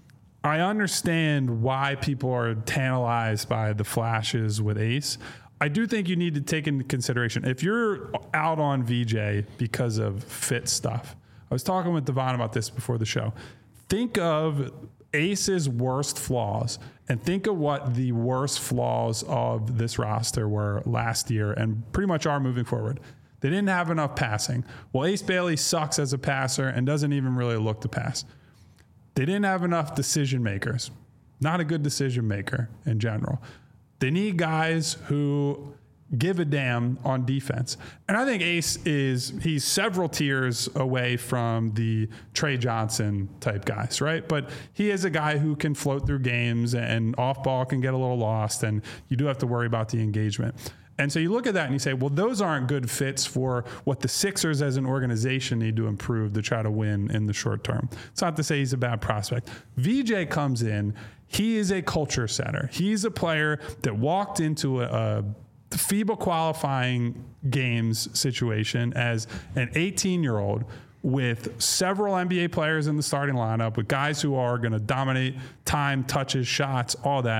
I understand why people are tantalized by the flashes with Ace. I do think you need to take into consideration, if you're out on VJ because of fit stuff, I was talking with Devon about this before the show. Think of Ace's worst flaws and think of what the worst flaws of this roster were last year and pretty much are moving forward. They didn't have enough passing. Well, Ace Bailey sucks as a passer and doesn't even really look to pass. They didn't have enough decision makers. Not a good decision maker in general. They need guys who give a damn on defense. And I think Ace he's several tiers away from the Trey Johnson type guys, right? But he is a guy who can float through games and off ball can get a little lost, and you do have to worry about the engagement. And so you look at that and you say, well, those aren't good fits for what the Sixers as an organization need to improve to try to win in the short term. It's not to say he's a bad prospect. VJ comes in, he is a culture setter. He's a player that walked into a FIBA qualifying games situation as an 18-year-old with several NBA players in the starting lineup, with guys who are going to dominate time, touches, shots, all that.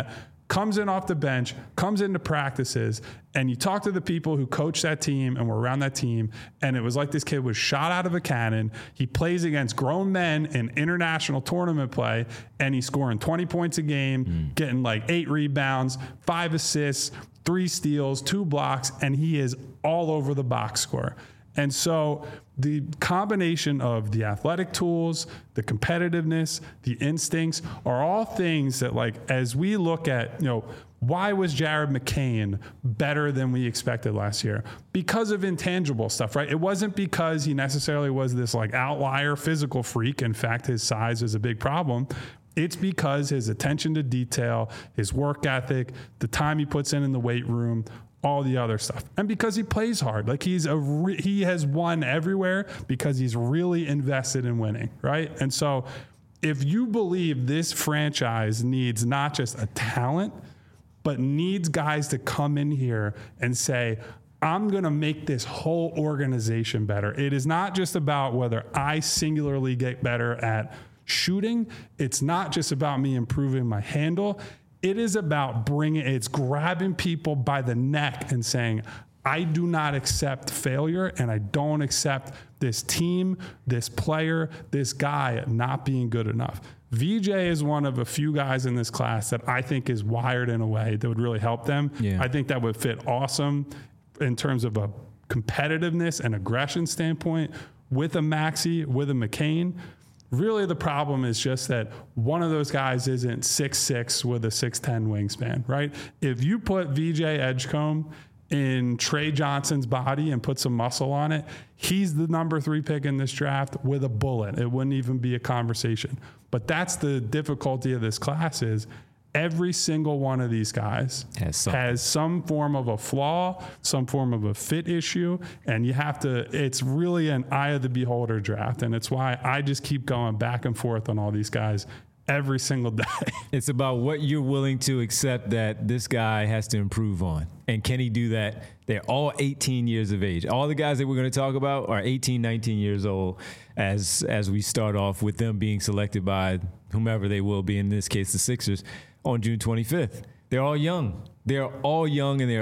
comes in off the bench, comes into practices, and you talk to the people who coach that team and were around that team, and it was like this kid was shot out of a cannon. He plays against grown men in international tournament play, and he's scoring 20 points a game, getting like 8 rebounds, 5 assists, 3 steals, 2 blocks, and he is all over the box score. And so the combination of the athletic tools, the competitiveness, the instincts are all things that, like, as we look at, why was Jared McCain better than we expected last year? Because of intangible stuff, right? It wasn't because he necessarily was this like outlier physical freak. In fact, his size is a big problem. It's because his attention to detail, his work ethic, the time he puts in the weight room, all the other stuff. And because he plays hard, like he has won everywhere because he's really invested in winning, right? And so if you believe this franchise needs not just a talent, but needs guys to come in here and say, I'm going to make this whole organization better. It is not just about whether I singularly get better at shooting. It's not just about me improving my handle. It is about it's grabbing people by the neck and saying, I do not accept failure, and I don't accept this team, this player, this guy not being good enough. VJ is one of a few guys in this class that I think is wired in a way that would really help them. Yeah. I think that would fit awesome in terms of a competitiveness and aggression standpoint with a Maxey, with a McCain. Really, the problem is just that one of those guys isn't 6'6" with a 6'10" wingspan, right? If you put VJ Edgecombe in Trey Johnson's body and put some muscle on it, he's the number 3 pick in this draft with a bullet. It wouldn't even be a conversation. But that's the difficulty of this class is every single one of these guys has some form of a flaw, some form of a fit issue, and it's really an eye of the beholder draft. And it's why I just keep going back and forth on all these guys every single day. It's about what you're willing to accept that this guy has to improve on. And can he do that? They're all 18 years of age. All the guys that we're going to talk about are 18, 19 years old as we start off with them being selected by whomever they will be, in this case the Sixers, on June 25th. They're all young. They're all young, and they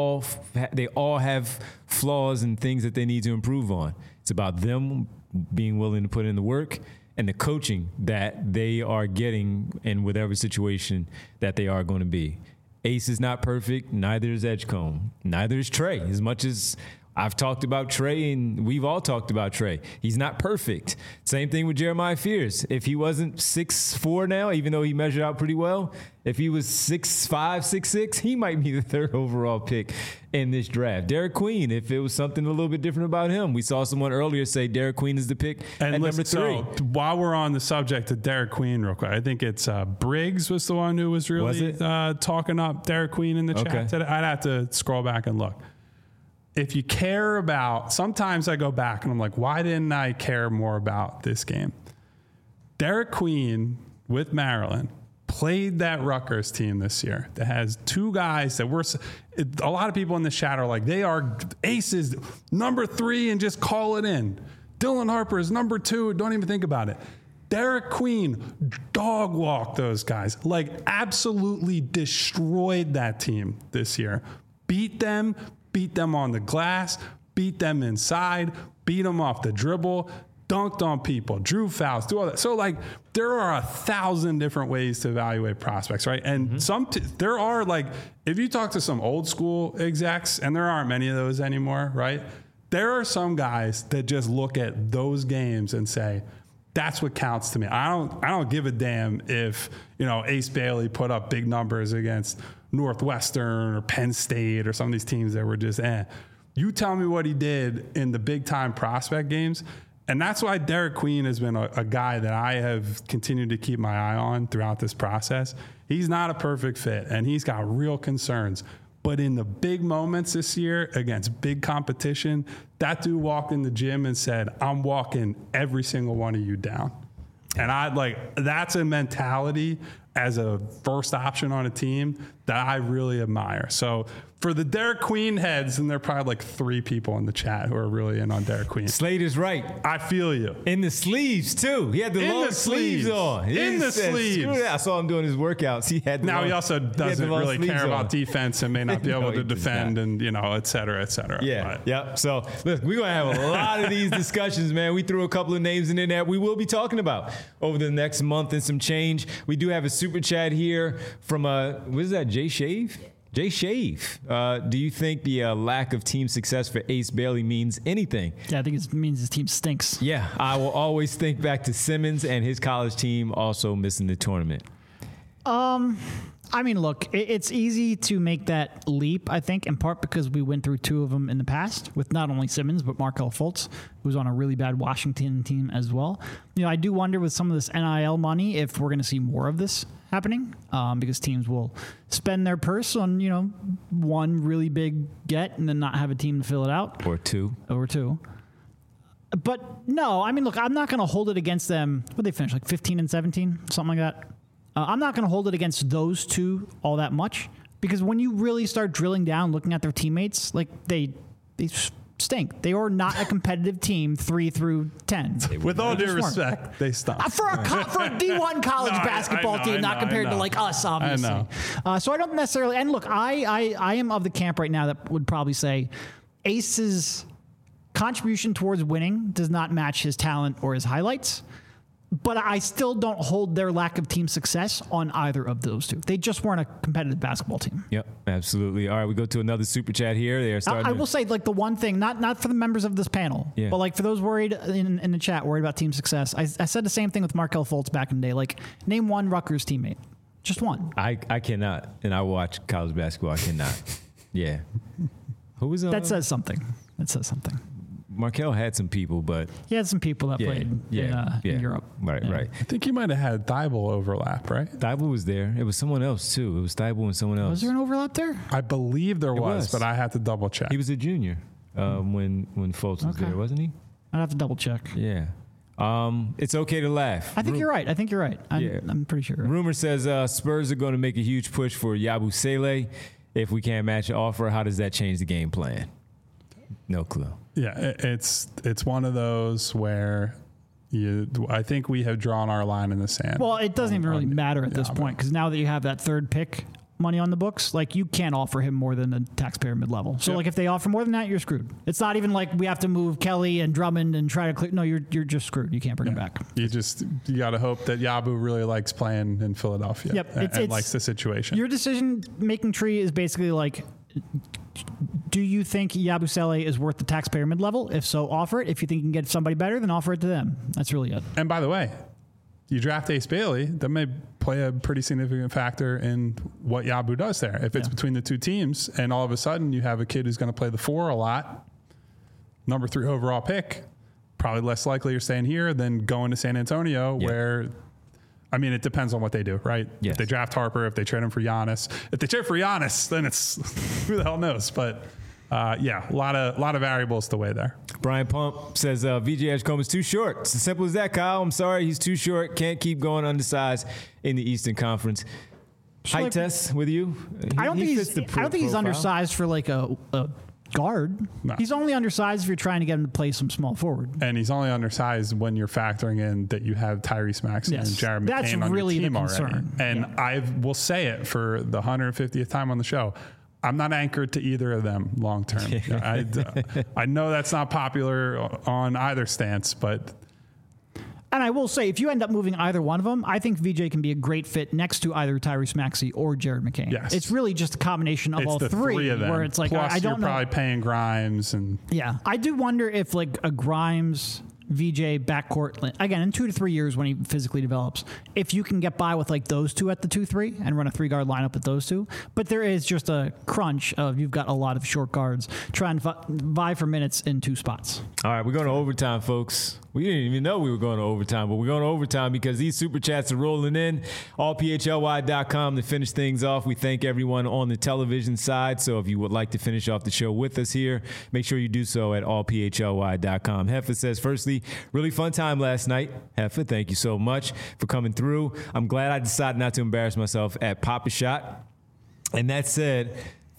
all have flaws and things that they need to improve on. It's about them being willing to put in the work and the coaching that they are getting in whatever situation that they are going to be. Ace is not perfect. Neither is Edgecombe. Neither is Trey. As much as I've talked about Trey, and we've all talked about Trey, he's not perfect. Same thing with Jeremiah Fears. If he wasn't 6'4" now, even though he measured out pretty well, if he was 6'5", 6'6", he might be the 3rd overall pick in this draft. Derek Queen, if it was something a little bit different about him. We saw someone earlier say Derek Queen is the pick at number 3. So while we're on the subject of Derek Queen real quick, I think it's Briggs was the one who was really talking up Derek Queen in the chat today. I'd have to scroll back and look. If you care about, sometimes I go back and I'm like, why didn't I care more about this game? Derek Queen with Maryland played that Rutgers team this year that has 2 guys that a lot of people in the chat are like, they are aces, number 3 and just call it in. Dylan Harper is number 2. Don't even think about it. Derek Queen dog walked those guys, like absolutely destroyed that team this year. Beat them on the glass, beat them inside, beat them off the dribble, dunked on people, drew fouls, do all that. So, like, there are 1,000 different ways to evaluate prospects, right? And there are, like, if you talk to some old school execs, and there aren't many of those anymore, right? There are some guys that just look at those games and say, that's what counts to me. I don't give a damn if, Ace Bailey put up big numbers against Northwestern or Penn State or some of these teams that were just, You tell me what he did in the big time prospect games. And that's why Derek Queen has been a guy that I have continued to keep my eye on throughout this process. He's not a perfect fit, and he's got real concerns. But in the big moments this year against big competition, that dude walked in the gym and said, I'm walking every single one of you down. And that's a mentality as a first option on a team that I really admire. So for the Derek Queen heads, and there are probably like 3 people in the chat who are really in on Derek Queen. Slade is right. I feel you. In the sleeves, too. He had the long sleeves on. In the sleeves. Screw that. I saw him doing his workouts. He had Now he also doesn't really care about defense and may not be able to defend and, et cetera, et cetera. Yeah. Yep. So, look, we're going to have a lot of these discussions, man. We threw a couple of names in there that we will be talking about over the next month and some change. We do have a super chat here from, what is that, Jay Shave? Jay Shave, do you think the lack of team success for Ace Bailey means anything? Yeah, I think it means his team stinks. Yeah, I will always think back to Simmons and his college team also missing the tournament. I mean, look, it's easy to make that leap, I think, in part because we went through 2 of them in the past with not only Simmons, but Markelle Fultz, who was on a really bad Washington team as well. I do wonder with some of this NIL money if we're going to see more of this happening because teams will spend their purse on, one really big get and then not have a team to fill it out. Or two. But no, I mean, look, I'm not going to hold it against them. What did they finish, like 15 and 17, something like that? I'm not going to hold it against those 2 all that much because when you really start drilling down, looking at their teammates, like they stink. They are not a competitive team 3 through 10. With all due respect, they stink. For a D1 college basketball team, not compared to like us, obviously. I know. So I don't necessarily. And look, I am of the camp right now that would probably say Ace's contribution towards winning does not match his talent or his highlights. But I still don't hold their lack of team success on either of those 2. They just weren't a competitive basketball team. Yep, absolutely. All right, we go to another super chat here. They are starting. I will say, like, the one thing, not for the members of this panel, but like for those worried in the chat, worried about team success. I said the same thing with Markelle Fultz back in the day. Like, name one Rutgers teammate, just one. I cannot, and I watch college basketball. I cannot. Yeah. Who was on? That says something. Markelle had some people, but he had some people that played in Europe. Right. I think you might have had Thibault overlap, right? Thibault was there. It was someone else, too. It was Thibault and someone else. Was there an overlap there? I believe there was, but I had to double check. He was a junior when Fultz was there, wasn't he? I'd have to double check. Yeah. It's okay to laugh. I think you're right. I'm pretty sure. Rumor says Spurs are going to make a huge push for Yabusele. If we can't match the offer, how does that change the game plan? No clue. Yeah, it's one of those where I think we have drawn our line in the sand. Well, it doesn't even really matter at this point because now that you have that 3rd pick money on the books, like you can't offer him more than the taxpayer mid-level. So like if they offer more than that, you're screwed. It's not even like we have to move Kelly and Drummond and try to clear. No, you're just screwed. You can't bring him back. You got to hope that Yabu really likes playing in Philadelphia. Yep, and likes the situation. Your decision-making tree is basically like, do you think Yabusele is worth the taxpayer mid-level? If so, offer it. If you think you can get somebody better, then offer it to them. That's really it. And by the way, you draft Ace Bailey, that may play a pretty significant factor in what Yabu does there. If it's between the 2 teams and all of a sudden you have a kid who's going to play the 4 a lot, number 3 overall pick, probably less likely you're staying here than going to San Antonio where... I mean, it depends on what they do, right? Yes. If they draft Harper, if they trade him for Giannis. If they trade for Giannis, then it's who the hell knows. But a lot of variables to weigh there. Brian Pump says VJ Edgecombe is too short. It's as simple as that, Kyle. I'm sorry, he's too short. Can't keep going undersized in the Eastern Conference. Height test with you? I don't think he's undersized for like a guard. No. He's only undersized if you're trying to get him to play some small forward. And he's only undersized when you're factoring in that you have Tyrese Maxey and Jared McCain on really your team the concern. Already. And I will say it for the 150th time on the show. I'm not anchored to either of them long term. I know that's not popular on either stance, but... And I will say, if you end up moving either one of them, I think VJ can be a great fit next to either Tyrese Maxey or Jared McCain. Yes. It's really just a combination of all three of them. Where it's like, plus I don't know. You're probably paying Grimes. Yeah. I do wonder if like a Grimes... VJ backcourt again in 2 to 3 years when he physically develops. If you can get by with like those 2 at the 2-3 and run a 3-guard lineup with those 2, but there is just a crunch of you've got a lot of short guards trying to vie for minutes in 2 spots. All right, we're going to overtime, folks. We didn't even know we were going to overtime, but we're going to overtime because these super chats are rolling in. allphly.com to finish things off. We thank everyone on the television side. So if you would like to finish off the show with us here, make sure you do so at allphly.com. Heffa says, firstly, really fun time last night. Heffa, thank you so much for coming through. I'm glad I decided not to embarrass myself at Pop-A-Shot. And that said,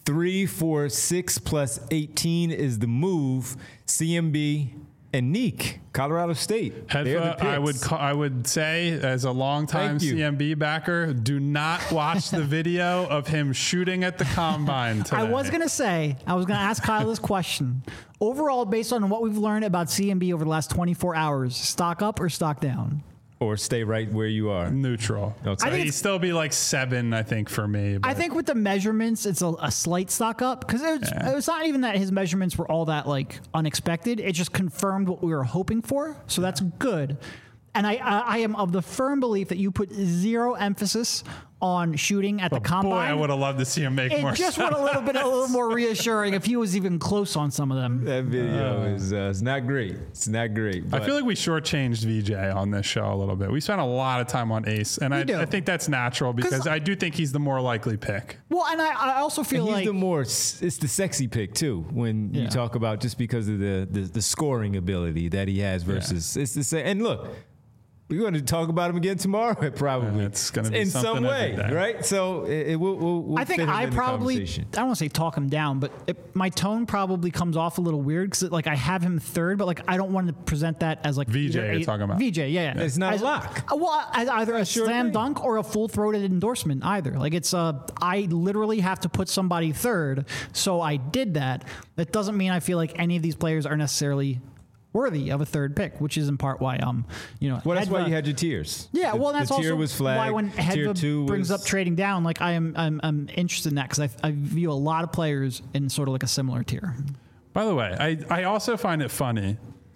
3, 4, 6 plus 18 is the move. CMB and Neek, Colorado State. Heffa, I would say, as a longtime CMB backer, do not watch the video of him shooting at the combine today. I was going to ask Kyle this question. Overall, based on what we've learned about CMB over the last 24 hours, stock up or stock down? Or stay right where you are. Neutral. Okay. He'd still be like 7, I think, for me. But. I think with the measurements, it's a slight stock up because it was not even that his measurements were all that like unexpected. It just confirmed what we were hoping for. So that's good. And I am of the firm belief that you put zero emphasis on shooting at the combine. Boy, I would have loved to see him make more. It just would a little more reassuring if he was even close on some of them. That video is it's not great. It's not great. I feel like we shortchanged VJ on this show a little bit. We spent a lot of time on Ace, and I think that's natural because I do think he's the more likely pick. Well, and I also feel he's like it's the sexy pick too when you talk about just because of the scoring ability that he has versus it's the same. And look. We're going to talk about him again tomorrow, probably. Yeah, it's going to be in some way, right? So we'll I think I probably, I don't want to say talk him down, but my tone probably comes off a little weird because like I have him third, but like I don't want to present that as like VJ. You're talking about VJ, yeah. It's not a lock. Well, as either a slam dunk or a full throated endorsement, either. Like it's I literally have to put somebody third, so I did that. That doesn't mean I feel like any of these players are necessarily worthy of a third pick, which is in part why well, that's why you had your tiers. Yeah, well, that's the tier also was flagged. why when Hedva brings up trading down, like I'm interested in that because I view a lot of players in sort of like a similar tier. By the way, I also find it funny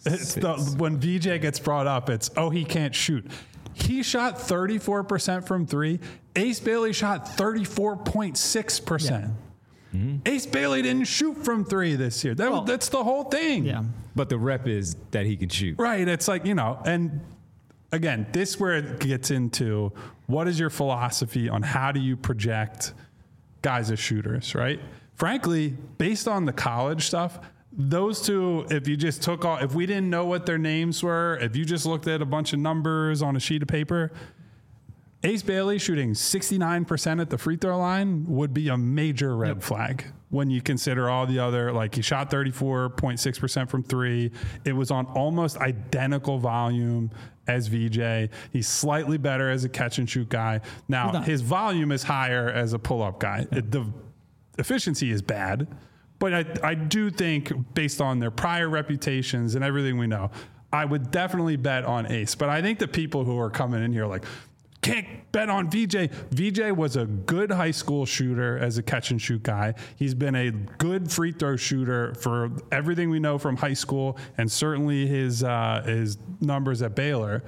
when VJ gets brought up. It's he can't shoot. He shot 34% from 3. Ace Bailey shot 34.6%. Yeah. Mm-hmm. Ace Bailey didn't shoot from 3 this year. That's the whole thing. Yeah. But the rep is that he can shoot. Right. It's like, and again, this is where it gets into what is your philosophy on how do you project guys as shooters, right? Frankly, based on the college stuff, those two, if you just if we didn't know what their names were, if you just looked at a bunch of numbers on a sheet of paper, Ace Bailey shooting 69% at the free throw line would be a major red flag when you consider all the other, like he shot 34.6% from 3. It was on almost identical volume as VJ. He's slightly better as a catch and shoot guy. Now, his volume is higher as a pull-up guy. The efficiency is bad, but I do think based on their prior reputations and everything we know, I would definitely bet on Ace. But I think the people who are coming in here like, can't bet on VJ. VJ was a good high school shooter as a catch and shoot guy. He's been a good free throw shooter for everything we know from high school and certainly his numbers at Baylor.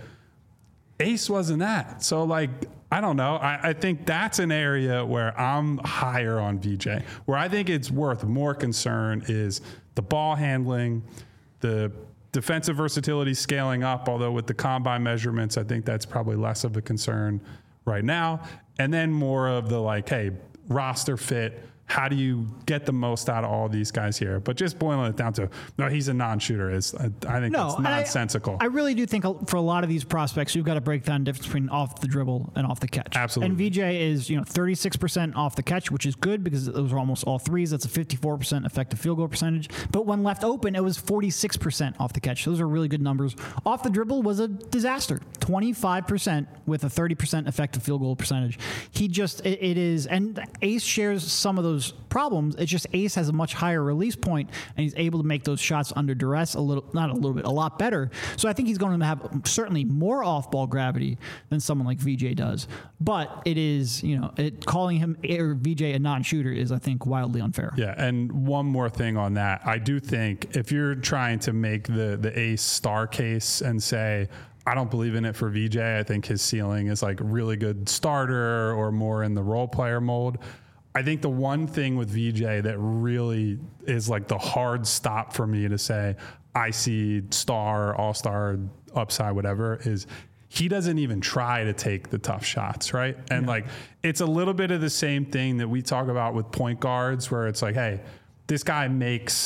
Ace wasn't that. So like, I don't know. I think that's an area where I'm higher on VJ. Where I think it's worth more concern is the ball handling, the defensive versatility scaling up, although with the combine measurements, I think that's probably less of a concern right now. And then more of the like, hey, roster fit. How do you get the most out of all these guys here? But just boiling it down to, no, he's a non-shooter. I think that's nonsensical. I really do think for a lot of these prospects, you've got to break down the difference between off the dribble and off the catch. Absolutely. And VJ is 36% off the catch, which is good because those are almost all threes. That's a 54% effective field goal percentage. But when left open, it was 46% off the catch. Those are really good numbers. Off the dribble was a disaster. 25% with a 30% effective field goal percentage. It is, and Ace shares some of those problems. It's just Ace has a much higher release point and he's able to make those shots under duress a lot better. So I think he's going to have certainly more off-ball gravity than someone like VJ does. But it is, calling him or VJ a non-shooter is, I think, wildly unfair. Yeah, and one more thing on that. I do think if you're trying to make the Ace star case and say, I don't believe in it for VJ, I think his ceiling is like really good starter or more in the role player mold. I think the one thing with VJ that really is like the hard stop for me to say, I see star, all-star, upside, whatever, is he doesn't even try to take the tough shots, right? And like, it's a little bit of the same thing that we talk about with point guards where it's like, hey, this guy makes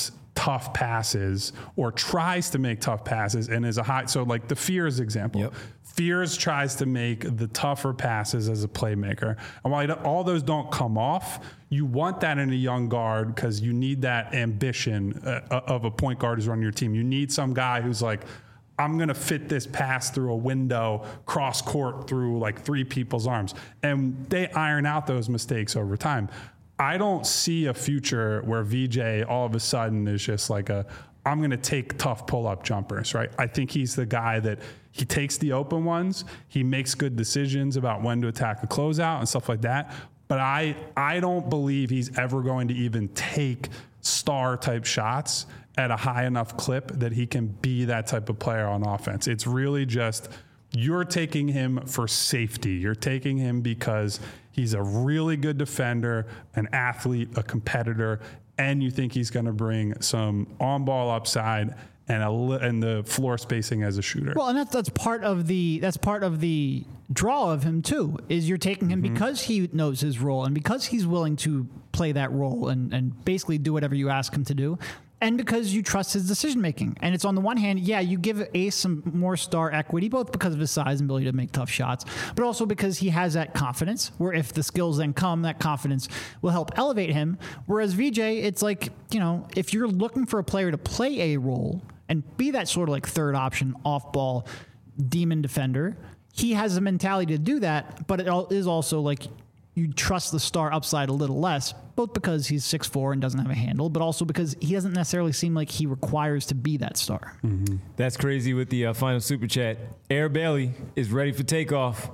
tough passes or tries to make tough passes and is a high. So like the Fears example. Yep. Fears tries to make the tougher passes as a playmaker. And while all those don't come off, you want that in a young guard because you need that ambition of a point guard who's running your team. You need some guy who's like, I'm going to fit this pass through a window, cross court through like 3 people's arms. And they iron out those mistakes over time. I don't see a future where VJ all of a sudden is just like I'm going to take tough pull-up jumpers, right? I think he's the guy that he takes the open ones. He makes good decisions about when to attack a closeout and stuff like that. But I don't believe he's ever going to even take star-type shots at a high enough clip that he can be that type of player on offense. It's really just you're taking him for safety. You're taking him because he's a really good defender, an athlete, a competitor, and you think he's going to bring some on-ball upside and the floor spacing as a shooter. Well, and that's part of the draw of him too. Is you're taking him because he knows his role and because he's willing to play that role and basically do whatever you ask him to do. And because you trust his decision making. And it's on the one hand, yeah, you give Ace some more star equity, both because of his size and ability to make tough shots, but also because he has that confidence where if the skills then come, that confidence will help elevate him. Whereas VJ, it's like, if you're looking for a player to play a role and be that sort of like third option off ball demon defender, he has a mentality to do that, but it is also like you trust the star upside a little less, both because he's 6'4" and doesn't have a handle, but also because he doesn't necessarily seem like he requires to be that star. Mm-hmm. That's crazy with the final super chat. Air Bailey is ready for takeoff.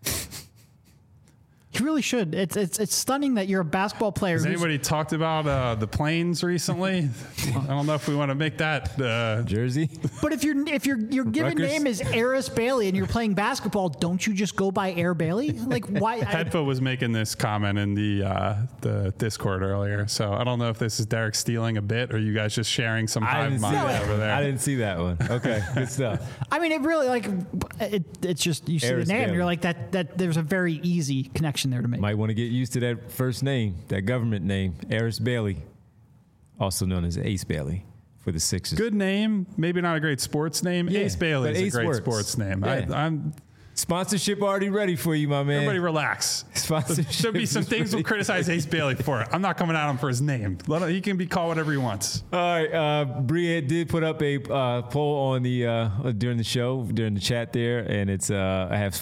He really should. It's stunning that you're a basketball player. Has anybody talked about the planes recently? I don't know if we want to make that Jersey. But if your given Rutgers? name is Aris Bailey and you're playing basketball, don't you just go by Air Bailey? Like why? Headfoot was making this comment in the Discord earlier, so I don't know if this is Derek stealing a bit or you guys just sharing some hive mind over there. I didn't see that one. Okay, good stuff. I mean, it really it's just you see Aris the name, Bailey. you're like that. There's a very easy connection there to make. Might want to get used to that first name, that government name, Aris Bailey, also known as Ace Bailey for the Sixers. Good name, maybe not a great sports name. Yeah, Ace Bailey but is Ace a great works. sports name. Yeah. I'm Sponsorship already ready for you, my man. Everybody relax. Sponsorship There'll be some is things we'll ready. criticize Ace Bailey for. I'm not coming at him for his name. He can be called whatever he wants. All right, Bria did put up a poll on the during the show, during the chat there, and it's I have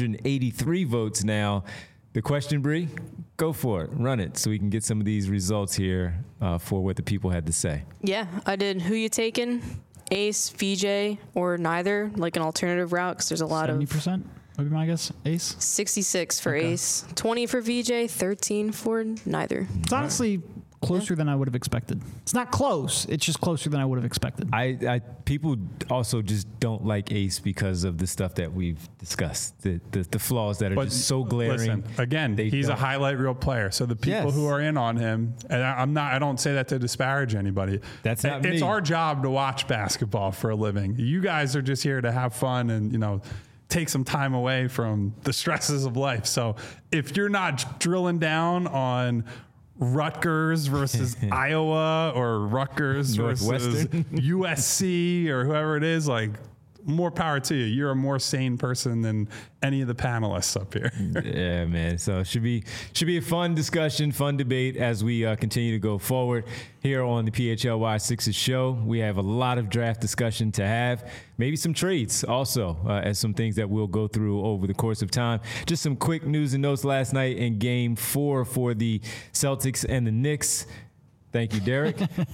483 votes now. The question, Bree, go for it, run it, so we can get some of these results here for what the people had to say. Yeah, I did. Who you taking? Ace, VJ, or neither? Like an alternative route, because there's a lot 70% would be my guess. Ace. 66 for Ace, 20 for VJ, 13 for neither. It's honestly closer than I would have expected. It's not close. It's just closer than I would have expected. I people also just don't like Ace because of the stuff that we've discussed, the flaws that are just so glaring. Listen, again, he's a highlight reel player. So the people who are in on him, and I don't say that to disparage anybody. That's not It's me. our job to watch basketball for a living. You guys are just here to have fun and, take some time away from the stresses of life. So if you're not drilling down on Rutgers versus Iowa or Rutgers versus Northwestern. USC or whoever it is, like, more power to you. You're a more sane person than any of the panelists up here. Yeah, man. So it should be a fun discussion, fun debate as we continue to go forward here on the PHLY Sixers show. We have a lot of draft discussion to have, maybe some trades also, as some things that we'll go through over the course of time. Just some quick news and notes last night in Game 4 for the Celtics and the Knicks. Thank you, Derek.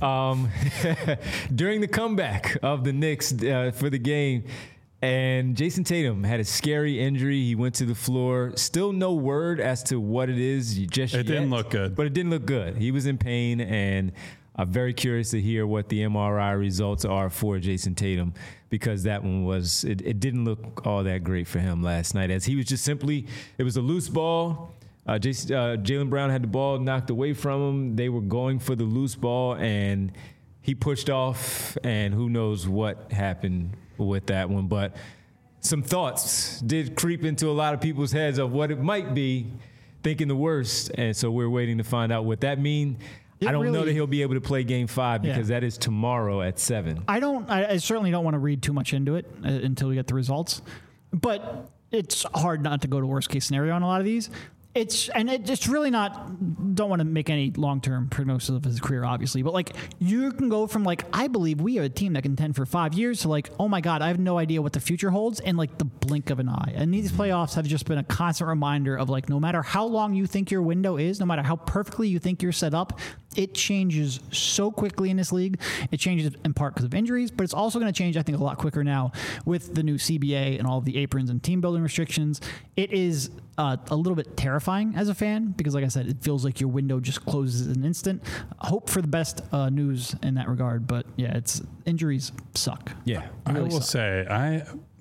During the comeback of the Knicks for the game, and Jason Tatum had a scary injury. He went to the floor. Still no word as to what it is just yet. It didn't look good. But it didn't look good. He was in pain, and I'm very curious to hear what the MRI results are for Jason Tatum, because that one was, it didn't look all that great for him last night, as he was just simply, it was a loose ball. Jaylen Brown had the ball knocked away from him. They were going for the loose ball, and he pushed off, and who knows what happened with that one. But some thoughts did creep into a lot of people's heads of what it might be, thinking the worst, and so we're waiting to find out what that means. I don't know that he'll be able to play Game 5 because that is tomorrow at 7. I certainly don't want to read too much into it until we get the results. But it's hard not to go to worst case scenario on a lot of these. It's really not, don't want to make any long-term prognosis of his career, obviously, but like you can go from like, I believe we are a team that can contend for 5 years to like, oh my God, I have no idea what the future holds in like the blink of an eye. And these playoffs have just been a constant reminder of like, no matter how long you think your window is, no matter how perfectly you think you're set up, it changes so quickly in this league. It changes in part because of injuries, but it's also going to change, I think, a lot quicker now with the new CBA and all of the aprons and team building restrictions. It is a little bit terrifying as a fan because, like I said, it feels like your window just closes in an instant. Hope for the best news in that regard, but yeah, injuries suck. Yeah, I will say,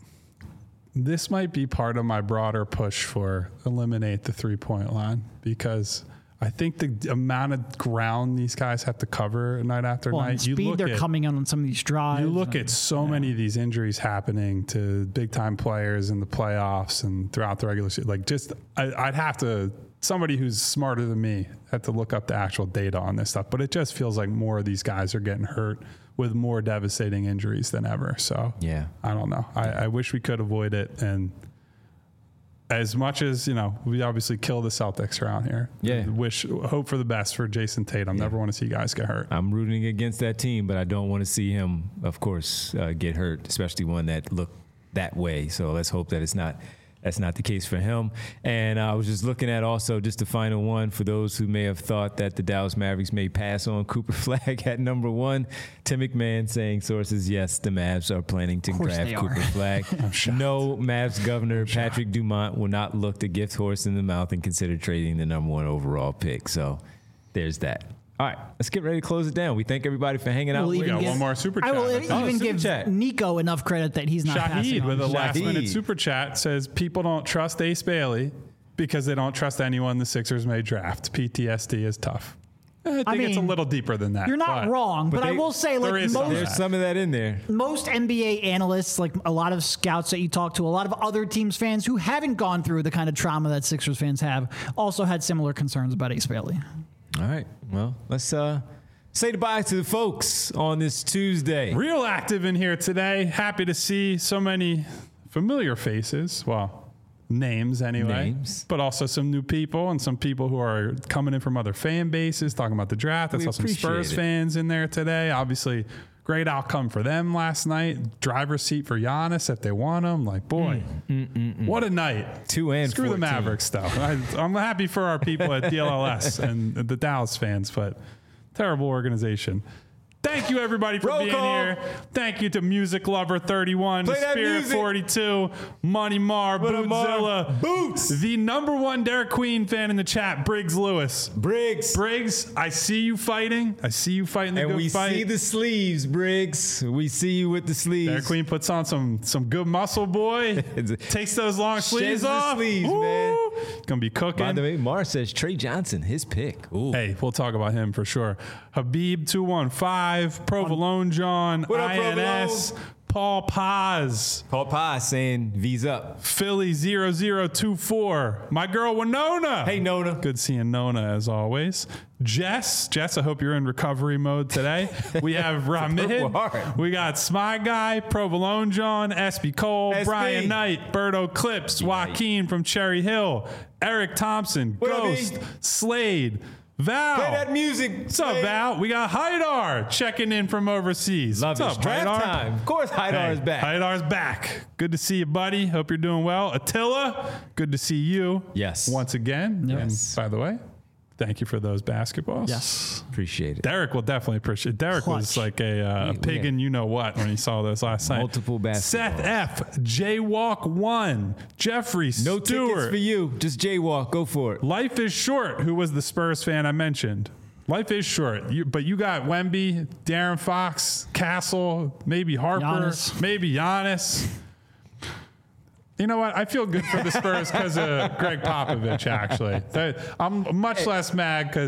this might be part of my broader push for eliminate the 3-point line because I think the amount of ground these guys have to cover night after night. And speed they're coming on some of these drives. You look at so many of these injuries happening to big time players in the playoffs and throughout the regular season. Like I'd have to, somebody who's smarter than me had to look up the actual data on this stuff. But it just feels like more of these guys are getting hurt with more devastating injuries than ever. So yeah, I don't know. I wish we could avoid it. And as much as, we obviously kill the Celtics around here. Yeah. Hope for the best for Jason Tatum. Never want to see guys get hurt. I'm rooting against that team, but I don't want to see him, of course, get hurt, especially one that looked that way. So let's hope that that's not the case for him. And I was just looking at also just the final one for those who may have thought that the Dallas Mavericks may pass on Cooper Flagg at number 1. Tim McMahon saying sources, yes, the Mavs are planning to draft Cooper Flagg. No, Mavs governor Patrick Dumont will not look the gift horse in the mouth and consider trading the number 1 overall pick. So there's that. All right, let's get ready to close it down. We thank everybody for hanging out. We got one more super chat. I will even give Nico enough credit that he's not passing on. With a last-minute super chat says, people don't trust Ace Bailey because they don't trust anyone the Sixers may draft. PTSD is tough. I think it's a little deeper than that. You're not wrong, but I will say, like, there's some of that in there. Most NBA analysts, like a lot of scouts that you talk to, a lot of other teams' fans who haven't gone through the kind of trauma that Sixers fans have, also had similar concerns about Ace Bailey. All right. Well, let's say goodbye to the folks on this Tuesday. Real active in here today. Happy to see so many familiar faces. Well, names anyway. But also some new people and some people who are coming in from other fan bases talking about the draft. I saw some Spurs fans in there today. Obviously, great outcome for them last night. Driver's seat for Giannis if they want him. Like, boy, what a night. 2 and Screw 14. the Mavericks, though. I'm happy for our people at DLLS and the Dallas fans, but terrible organization. Thank you, everybody, for being here. Thank you to Music Lover 31, The Spirit 42, Money Mar, Bootzilla, Boots, the number 1 Derek Queen fan in the chat, Briggs Lewis. Briggs, I see you fighting. I see you fighting the good fight. And we see the sleeves, Briggs. We see you with the sleeves. Derek Queen puts on some good muscle, boy. Takes those long sleeves off. Sleeves, man. Gonna be cooking. By the way, Mar says Trey Johnson, his pick. Ooh. Hey, we'll talk about him for sure. Habib 215, Provolone John, what up, INS, Paul Paz. Paul Paz saying V's up. Philly 0024. My girl Winona. Hey, Nona. Good seeing Nona as always. Jess, I hope you're in recovery mode today. We have Ramid. We got Smy Guy, Provolone John, SB Cole, Brian Knight, Berto Clips, Joaquin from Cherry Hill, Eric Thompson, Ghost, Slade, Val. Play that music. What's up, Val? We got Haidar checking in from overseas. Love What's up, draft Haidar? time. Of course, Haidar is back. Haidar's back. Good to see you, buddy. Hope you're doing well. Attila, good to see you. Yes. Once again. Yes. And by the way, thank you for those basketballs. Yes. Appreciate it. Derek will definitely appreciate it. Derek was like a pig in you-know-what when he saw those last night. Multiple basketballs. Seth F. Jaywalk 1. Jeffrey No Stewart. tickets for you. Just jaywalk. Go for it. Life is Short, who was the Spurs fan I mentioned. Life is short, but you got Wemby, Darren Fox, Castle, maybe Harper, maybe Giannis. You know what? I feel good for the Spurs because of Greg Popovich, actually. I'm much less mad because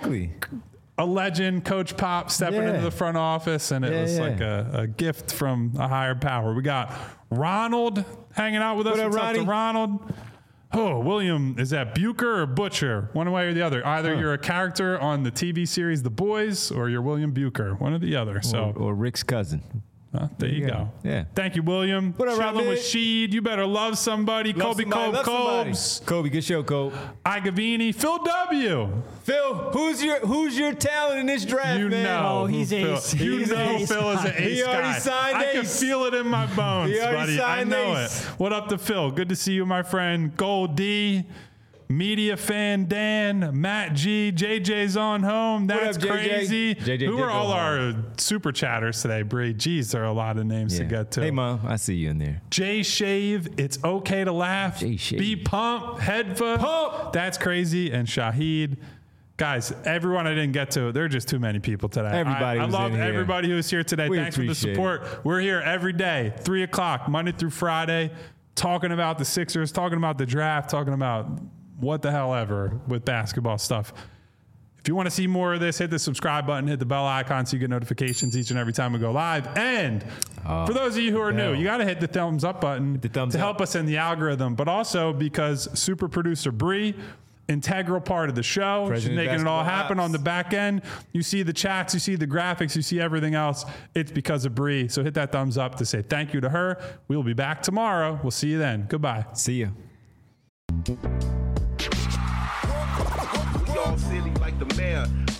a legend, Coach Pop, stepping into the front office, and it was like a gift from a higher power. We got Ronald hanging out with us. What's up to Ronald? Oh, William, is that Bucher or Butcher? One way or the other. Either you're a character on the TV series The Boys or you're William Bucher. One or the other. So Or Rick's cousin. there you go. Yeah. Thank you, William. What up, Chilling with Rob? Sheed. You better love somebody. Love Kobe somebody, love somebody. Cobes. Kobe, good show, Kobe. Igavini. Phil W. Phil, who's your talent in this draft, You man? know. Oh, he's who Phil- ace. You He's know ace. Phil is an ace He already guy. signed I can ace. feel it in my bones, He already buddy. I signed know ace. it. What up to Phil? Good to see you, my friend. Gold D. Media fan Dan, Matt G, JJ's on home. That's up, JJ? crazy. JJ Who did are go all home. our super chatters today, Bree? Geez, there are a lot of names to Yeah. get to. Hey, Mom, I see you in there. Jay Shave, it's okay to laugh. Jay Shave. Be pumped, Headfa. Pump. That's crazy. And Shahid. Guys, everyone I didn't get to, there are just too many people today. Everybody I was love in here. everybody who was here today. We Thanks for the appreciate support. We're here every day, 3 o'clock, Monday through Friday, talking about the Sixers, talking about the draft, talking about what the hell ever with basketball stuff. If you want to see more of this, hit the subscribe button, hit the bell icon so you get notifications each and every time we go live. And for those of you who are new, you got to hit the thumbs up button the thumbs to up. help us in the algorithm, but also because super producer Bree, integral part of the show. She's President making it all Basketball happen Ops. on the back end. You see the chats, you see the graphics, you see everything else. It's because of Bree. So hit that thumbs up to say thank you to her. We'll be back tomorrow. We'll see you then. Goodbye. See ya. We all silly like the mayor.